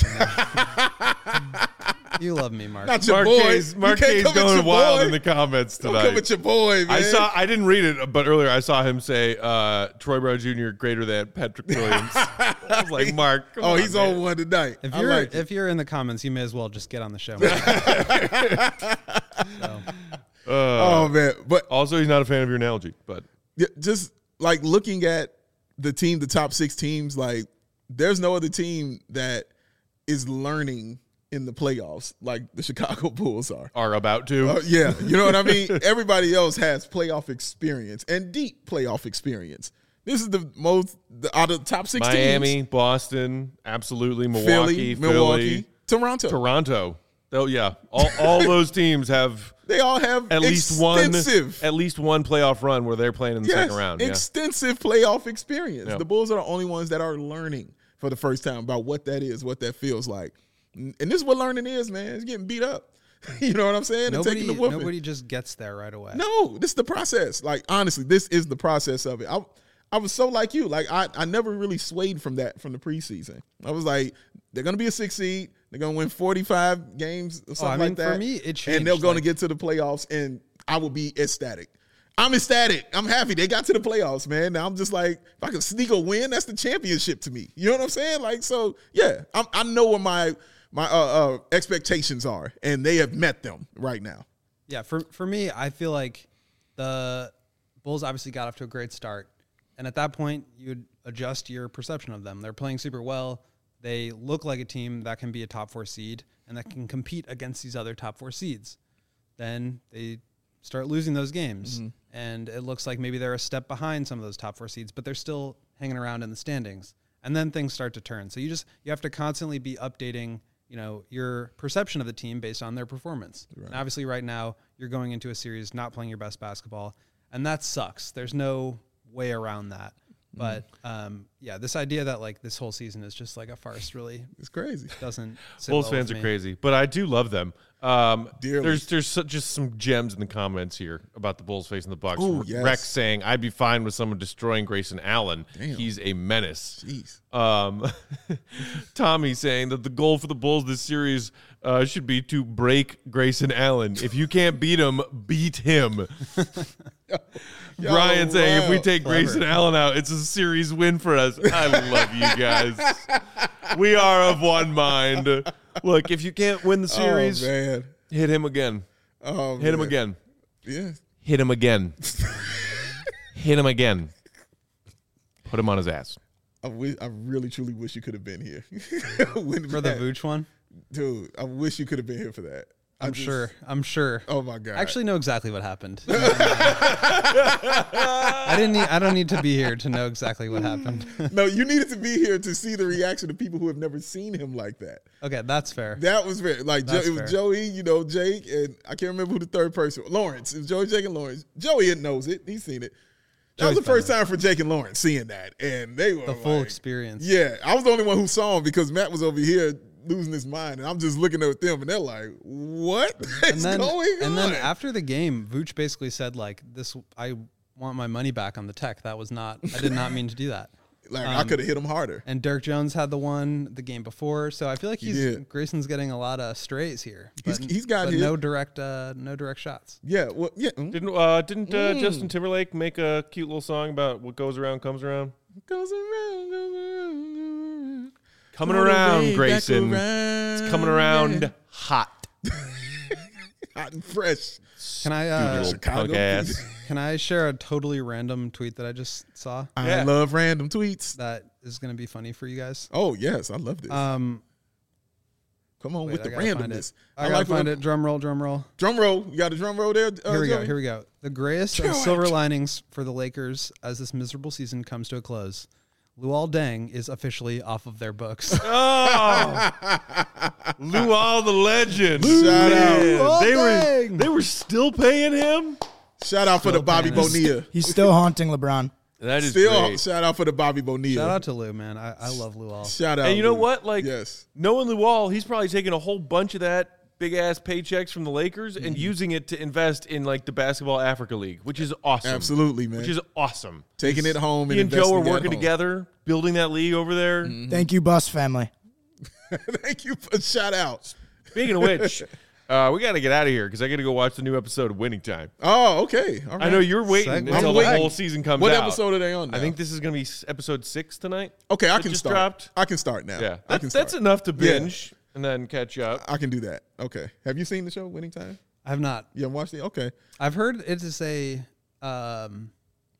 Speaker 5: You love me, Mark.
Speaker 2: Not your
Speaker 1: Marquez,
Speaker 2: boy.
Speaker 1: Marquez going wild boy. in the comments tonight.
Speaker 2: Don't come at your boy, man.
Speaker 1: I saw. I didn't read it, but earlier I saw him say uh, Troy Brown Junior greater than Patrick Williams. I was like, Mark. Come
Speaker 2: oh,
Speaker 1: on,
Speaker 2: he's
Speaker 1: man.
Speaker 2: on one tonight.
Speaker 5: If
Speaker 2: I
Speaker 5: you're
Speaker 2: like
Speaker 5: if you're in the comments, you may as well just get on the show. so.
Speaker 1: uh,
Speaker 2: oh man! But
Speaker 1: also, he's not a fan of your analogy. But
Speaker 2: yeah, just like looking at the team, the top six teams, like there's no other team that is learning in the playoffs like the Chicago Bulls are.
Speaker 1: Are about to.
Speaker 2: Uh, yeah, you know what I mean? Everybody else has playoff experience and deep playoff experience. This is the most, the, out of the top six
Speaker 1: Miami,
Speaker 2: teams.
Speaker 1: Boston, absolutely. Milwaukee,
Speaker 2: Philly,
Speaker 1: Philly,
Speaker 2: Milwaukee, Toronto.
Speaker 1: Toronto. Oh, yeah. All, all those teams have
Speaker 2: They all have
Speaker 1: at least one
Speaker 2: extensive,
Speaker 1: at least one playoff run where they're playing in the
Speaker 2: yes,
Speaker 1: second round.
Speaker 2: extensive playoff experience.
Speaker 1: Yeah.
Speaker 2: The Bulls are the only ones that are learning for the first time about what that is, what that feels like. And this is what learning is, man. It's getting beat up. You know what I'm saying?
Speaker 5: Nobody,
Speaker 2: and taking the whooping.
Speaker 5: nobody just gets there right away.
Speaker 2: No, this is the process. Like, honestly, this is the process of it. I, I was so like you. Like, I, I never really swayed from that from the preseason. I was like, they're going to be a six seed. They're going to win forty-five games or something
Speaker 5: oh, I mean,
Speaker 2: like that.
Speaker 5: For me, it changed.
Speaker 2: And they're going
Speaker 5: like,
Speaker 2: to get to the playoffs, and I will be ecstatic. I'm ecstatic. I'm happy. They got to the playoffs, man. Now I'm just like, if I can sneak a win, that's the championship to me. You know what I'm saying? Like, so, yeah, I'm, I know what my – my uh, uh, expectations are, and they have met them right now.
Speaker 5: Yeah, for for me, I feel like the Bulls obviously got off to a great start, and at that point, you'd adjust your perception of them. They're playing super well. They look like a team that can be a top four seed and that can compete against these other top four seeds. Then they start losing those games, mm-hmm. and it looks like maybe they're a step behind some of those top four seeds, but they're still hanging around in the standings. And then things start to turn. So you just you have to constantly be updating you know, your perception of the team based on their performance. Right. And obviously right now you're going into a series not playing your best basketball, and that sucks. There's no way around that. Mm. But um, yeah, this idea that like this whole season is just like a farce really
Speaker 2: it's crazy.
Speaker 5: Doesn't sit
Speaker 1: Bulls
Speaker 5: well
Speaker 1: fans
Speaker 5: with
Speaker 1: are
Speaker 5: me.
Speaker 1: crazy, but I do love them. Um,
Speaker 2: Dearly.
Speaker 1: there's there's so, just some gems in the comments here about the Bulls facing the Bucks.
Speaker 2: Ooh, yes.
Speaker 1: Rex saying, "I'd be fine with someone destroying Grayson Allen.
Speaker 2: Damn.
Speaker 1: He's a menace."
Speaker 2: Jeez.
Speaker 1: Um, Tommy saying that the goal for the Bulls this series uh, should be to break Grayson Allen. If you can't beat him, beat him.
Speaker 2: Yo,
Speaker 1: Brian
Speaker 2: wow.
Speaker 1: saying, if we take
Speaker 5: Clever.
Speaker 1: Grayson Allen out, it's a series win for us. I love you guys. We are of one mind. Look, if you can't win the series,
Speaker 2: oh, man.
Speaker 1: hit him again.
Speaker 2: Oh,
Speaker 1: hit him
Speaker 2: man.
Speaker 1: again.
Speaker 2: Yeah.
Speaker 1: Hit him again. Hit him again. Put him on his ass.
Speaker 2: I, wish, I really, truly wish you could have been here. When
Speaker 5: For the
Speaker 2: that-
Speaker 5: Vooch one?
Speaker 2: Dude, I wish you could have been here for that. I
Speaker 5: I'm
Speaker 2: just-
Speaker 5: sure. I'm sure.
Speaker 2: Oh, my God.
Speaker 5: I actually know exactly what happened. I didn't need, I don't need to be here to know exactly what happened.
Speaker 2: No, you needed to be here to see the reaction of people who have never seen him like that.
Speaker 5: Okay, that's fair.
Speaker 2: That was very, like, Jo-
Speaker 5: That's
Speaker 2: it was
Speaker 5: fair.
Speaker 2: Joey, you know, Jake, and I can't remember who the third person was. Lawrence. It was Joey, Jake, and Lawrence. Joey knows it. He's seen it. That
Speaker 5: Joey's
Speaker 2: was the first
Speaker 5: funny.
Speaker 2: time for Jake and Lawrence seeing that. And they were
Speaker 5: The full
Speaker 2: like-
Speaker 5: experience.
Speaker 2: Yeah, I was the only one who saw him because Matt was over here losing his mind, and I'm just looking at them, and they're like, "What
Speaker 5: And
Speaker 2: is
Speaker 5: then,
Speaker 2: going on?"
Speaker 5: and then after the game, Vooch basically said, like, this, I want my money back on the tech. That was not, I did not mean to do that.
Speaker 2: like I
Speaker 5: um,
Speaker 2: could have hit him harder.
Speaker 5: And Dirk Jones had the one the game before, so I feel like
Speaker 2: He
Speaker 5: he's
Speaker 2: did.
Speaker 5: Grayson's getting a lot of strays here.
Speaker 2: He's-
Speaker 5: But,
Speaker 2: he's got
Speaker 5: but
Speaker 2: hit.
Speaker 5: no direct, uh, no direct shots.
Speaker 2: Yeah, well, yeah. mm.
Speaker 1: Didn't uh, didn't uh,
Speaker 2: Mm.
Speaker 1: Justin Timberlake make a cute little song about what goes around comes around?
Speaker 2: Goes around, goes around, goes around.
Speaker 1: Coming
Speaker 2: All the
Speaker 1: around,
Speaker 2: way back
Speaker 1: Grayson.
Speaker 2: around,
Speaker 1: It's coming around
Speaker 2: yeah.
Speaker 1: hot.
Speaker 2: hot and fresh.
Speaker 5: Can I,
Speaker 1: Dude,
Speaker 5: uh,
Speaker 1: you old punk ass.
Speaker 5: can I share a totally random tweet that I just saw
Speaker 2: I
Speaker 1: Yeah.
Speaker 2: love random tweets.
Speaker 5: that is going to be funny for you guys?
Speaker 2: Oh yes, I love this.
Speaker 5: Um,
Speaker 2: Come on
Speaker 5: wait,
Speaker 2: with
Speaker 5: I
Speaker 2: the
Speaker 5: gotta find
Speaker 2: randomness.
Speaker 5: it. I, gotta
Speaker 2: like
Speaker 5: find
Speaker 2: when-
Speaker 5: it. Drum roll, drum roll.
Speaker 2: Drum roll. You got a drum roll there. Uh,
Speaker 5: Here we go.
Speaker 2: Joey?
Speaker 5: Here we go. The grayest
Speaker 2: Do
Speaker 5: of
Speaker 2: it.
Speaker 5: silver linings for the Lakers as this miserable season comes to a close. Luol Deng is officially off of their books.
Speaker 1: Oh, Luol the legend.
Speaker 2: Shout out.
Speaker 1: Man,
Speaker 5: Luol
Speaker 1: they were
Speaker 5: Deng.
Speaker 1: they were still paying him.
Speaker 2: Shout out for the
Speaker 5: Still
Speaker 2: Bobby
Speaker 5: paying us.
Speaker 2: Bonilla.
Speaker 3: He's still haunting LeBron.
Speaker 1: That is
Speaker 2: Still,
Speaker 1: great.
Speaker 2: shout out for the Bobby Bonilla.
Speaker 5: Shout out to Lou, man. I, I love Lou All.
Speaker 2: Shout out.
Speaker 1: And you know
Speaker 2: Lou.
Speaker 1: what? Like,
Speaker 2: yes.
Speaker 1: knowing Lou Wall, he's probably taking a whole bunch of that big ass paychecks from the Lakers and
Speaker 2: Mm-hmm.
Speaker 1: using it to invest in like the Basketball Africa League, which is awesome.
Speaker 2: Absolutely, man.
Speaker 1: Which is awesome.
Speaker 2: Taking it home and
Speaker 1: He and Joe are
Speaker 2: investing at
Speaker 1: working
Speaker 2: home.
Speaker 1: together, building that league over there.
Speaker 3: Thank you, Bus family.
Speaker 2: Thank you for shout out.
Speaker 1: Speaking of which, uh, we got to get out of here because I got to go watch the new episode of Winning Time.
Speaker 2: Oh, okay. All right.
Speaker 1: I know you're waiting
Speaker 5: Segment.
Speaker 1: until
Speaker 2: I'm
Speaker 1: the
Speaker 2: waiting.
Speaker 1: whole season comes
Speaker 2: What
Speaker 1: out.
Speaker 2: episode are they on now?
Speaker 1: I think this is going to be s- episode six tonight.
Speaker 2: Okay, I
Speaker 1: that
Speaker 2: can
Speaker 1: just
Speaker 2: start.
Speaker 1: dropped.
Speaker 2: I can start now.
Speaker 1: Yeah,
Speaker 2: I can
Speaker 1: that's,
Speaker 2: start.
Speaker 1: that's enough to
Speaker 2: Yeah.
Speaker 1: binge and then catch up.
Speaker 2: I can do that. Okay. Have you seen the show Winning Time?
Speaker 5: I have not.
Speaker 2: You haven't watched it? Okay.
Speaker 5: I've heard it is a um,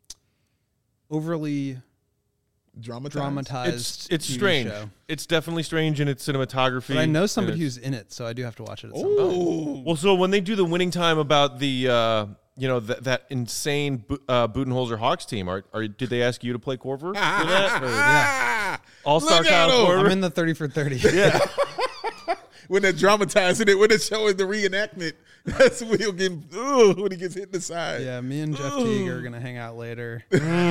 Speaker 5: overly
Speaker 2: Dramatized.
Speaker 5: dramatized.
Speaker 1: It's it's
Speaker 5: T V
Speaker 1: strange.
Speaker 5: show.
Speaker 1: It's definitely strange in its cinematography.
Speaker 5: But I know
Speaker 1: and
Speaker 5: somebody
Speaker 1: it's-
Speaker 5: who's in it, so I do have to watch it at some point.
Speaker 2: Ooh.
Speaker 1: Well, so when they do the Winning Time about the uh, you know th- that insane Bu- uh, Budenholzer Hawks team, are, are did they ask you to play Corver for that? Or
Speaker 5: Yeah.
Speaker 1: All Star
Speaker 2: Look at
Speaker 1: Kyle
Speaker 2: him.
Speaker 1: Korver?
Speaker 5: I'm in the thirty for thirty.
Speaker 1: yeah.
Speaker 2: When they're dramatizing it, when they're showing the reenactment, that's when he'll get ooh, when he gets hit in the side.
Speaker 5: Yeah, me and Jeff Teague are gonna hang out later.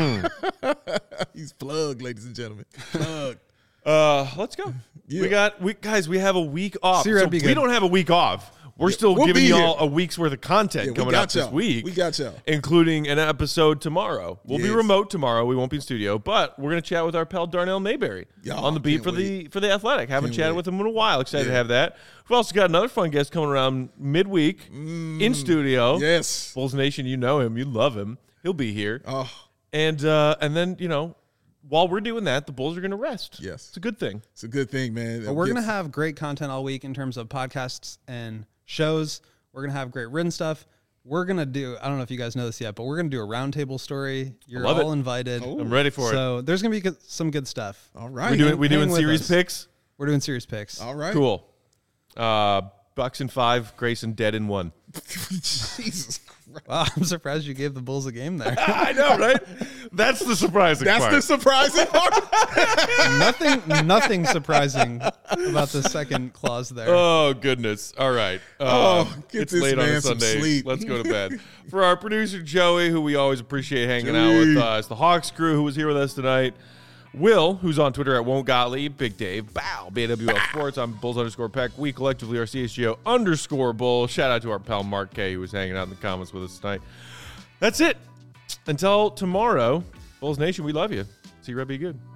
Speaker 2: He's plugged, ladies and gentlemen. Plugged.
Speaker 1: Uh, let's go.
Speaker 2: Yeah.
Speaker 1: We got we guys. We have a week off.
Speaker 5: See, that'd
Speaker 1: So
Speaker 5: be
Speaker 1: we
Speaker 5: good.
Speaker 1: don't have a week off. We're still
Speaker 2: we'll
Speaker 1: giving
Speaker 2: be
Speaker 1: y'all
Speaker 2: here.
Speaker 1: a week's worth of content
Speaker 2: Yeah, we
Speaker 1: coming
Speaker 2: got
Speaker 1: out this
Speaker 2: y'all.
Speaker 1: week.
Speaker 2: We got y'all.
Speaker 1: including an episode tomorrow. We'll be
Speaker 2: Yes.
Speaker 1: remote tomorrow. We won't be in studio, but we're going to chat with our pal Darnell Mayberry
Speaker 2: Y'all,
Speaker 1: on the beat
Speaker 2: can't
Speaker 1: for the
Speaker 2: wait.
Speaker 1: for the Athletic. Haven't
Speaker 2: Can't
Speaker 1: chatted
Speaker 2: wait.
Speaker 1: with him in a while. Excited to
Speaker 2: Yeah.
Speaker 1: have that. We've also got another fun guest coming around midweek in studio.
Speaker 2: Yes.
Speaker 1: Bulls Nation, you know him, you love him. He'll be here,
Speaker 2: Oh,
Speaker 1: and uh, and then you know, while we're doing that, the Bulls are going to rest.
Speaker 2: Yes.
Speaker 1: it's a good thing.
Speaker 2: it's a good thing, man.
Speaker 5: But we're
Speaker 2: Yes.
Speaker 5: gonna have great content all week in terms of podcasts and shows. We're gonna have great written stuff. We're gonna do. I don't know if you guys know this yet, but we're gonna do a roundtable story. You're
Speaker 1: love
Speaker 5: all
Speaker 1: it.
Speaker 5: invited.
Speaker 1: I'm ready for it.
Speaker 5: So there's gonna be good, some good stuff.
Speaker 2: All right.
Speaker 1: We doing we
Speaker 5: hang
Speaker 1: doing
Speaker 5: with
Speaker 1: series
Speaker 5: us.
Speaker 1: picks.
Speaker 5: We're doing serious picks.
Speaker 2: All right.
Speaker 1: Cool. Uh, Bucks in five, Grayson dead in one.
Speaker 2: Jesus Christ.
Speaker 5: Wow, I'm surprised you gave the Bulls a game there.
Speaker 1: I know, right? That's the surprising
Speaker 2: That's
Speaker 1: part.
Speaker 2: the surprising part.
Speaker 5: nothing, nothing surprising about the second clause there.
Speaker 1: Oh goodness! All right.
Speaker 2: Oh,
Speaker 1: Uh,
Speaker 2: get
Speaker 1: it's
Speaker 2: this
Speaker 1: late on a
Speaker 2: man some
Speaker 1: Sunday.
Speaker 2: sleep.
Speaker 1: Let's go to bed. For our producer Joey, who we always appreciate hanging out with
Speaker 2: Joey.
Speaker 1: us, the Hawks crew who was here with us tonight, Will, who's on Twitter at Won't Gottlieb, Big Dave, Bow, B A W L Sports. I'm Bulls underscore Peck. We collectively are C H G O underscore Bull. Shout out to our pal Mark K, who was hanging out in the comments with us tonight. That's it. Until tomorrow, Bulls Nation, we love you. See you, Red. Be good.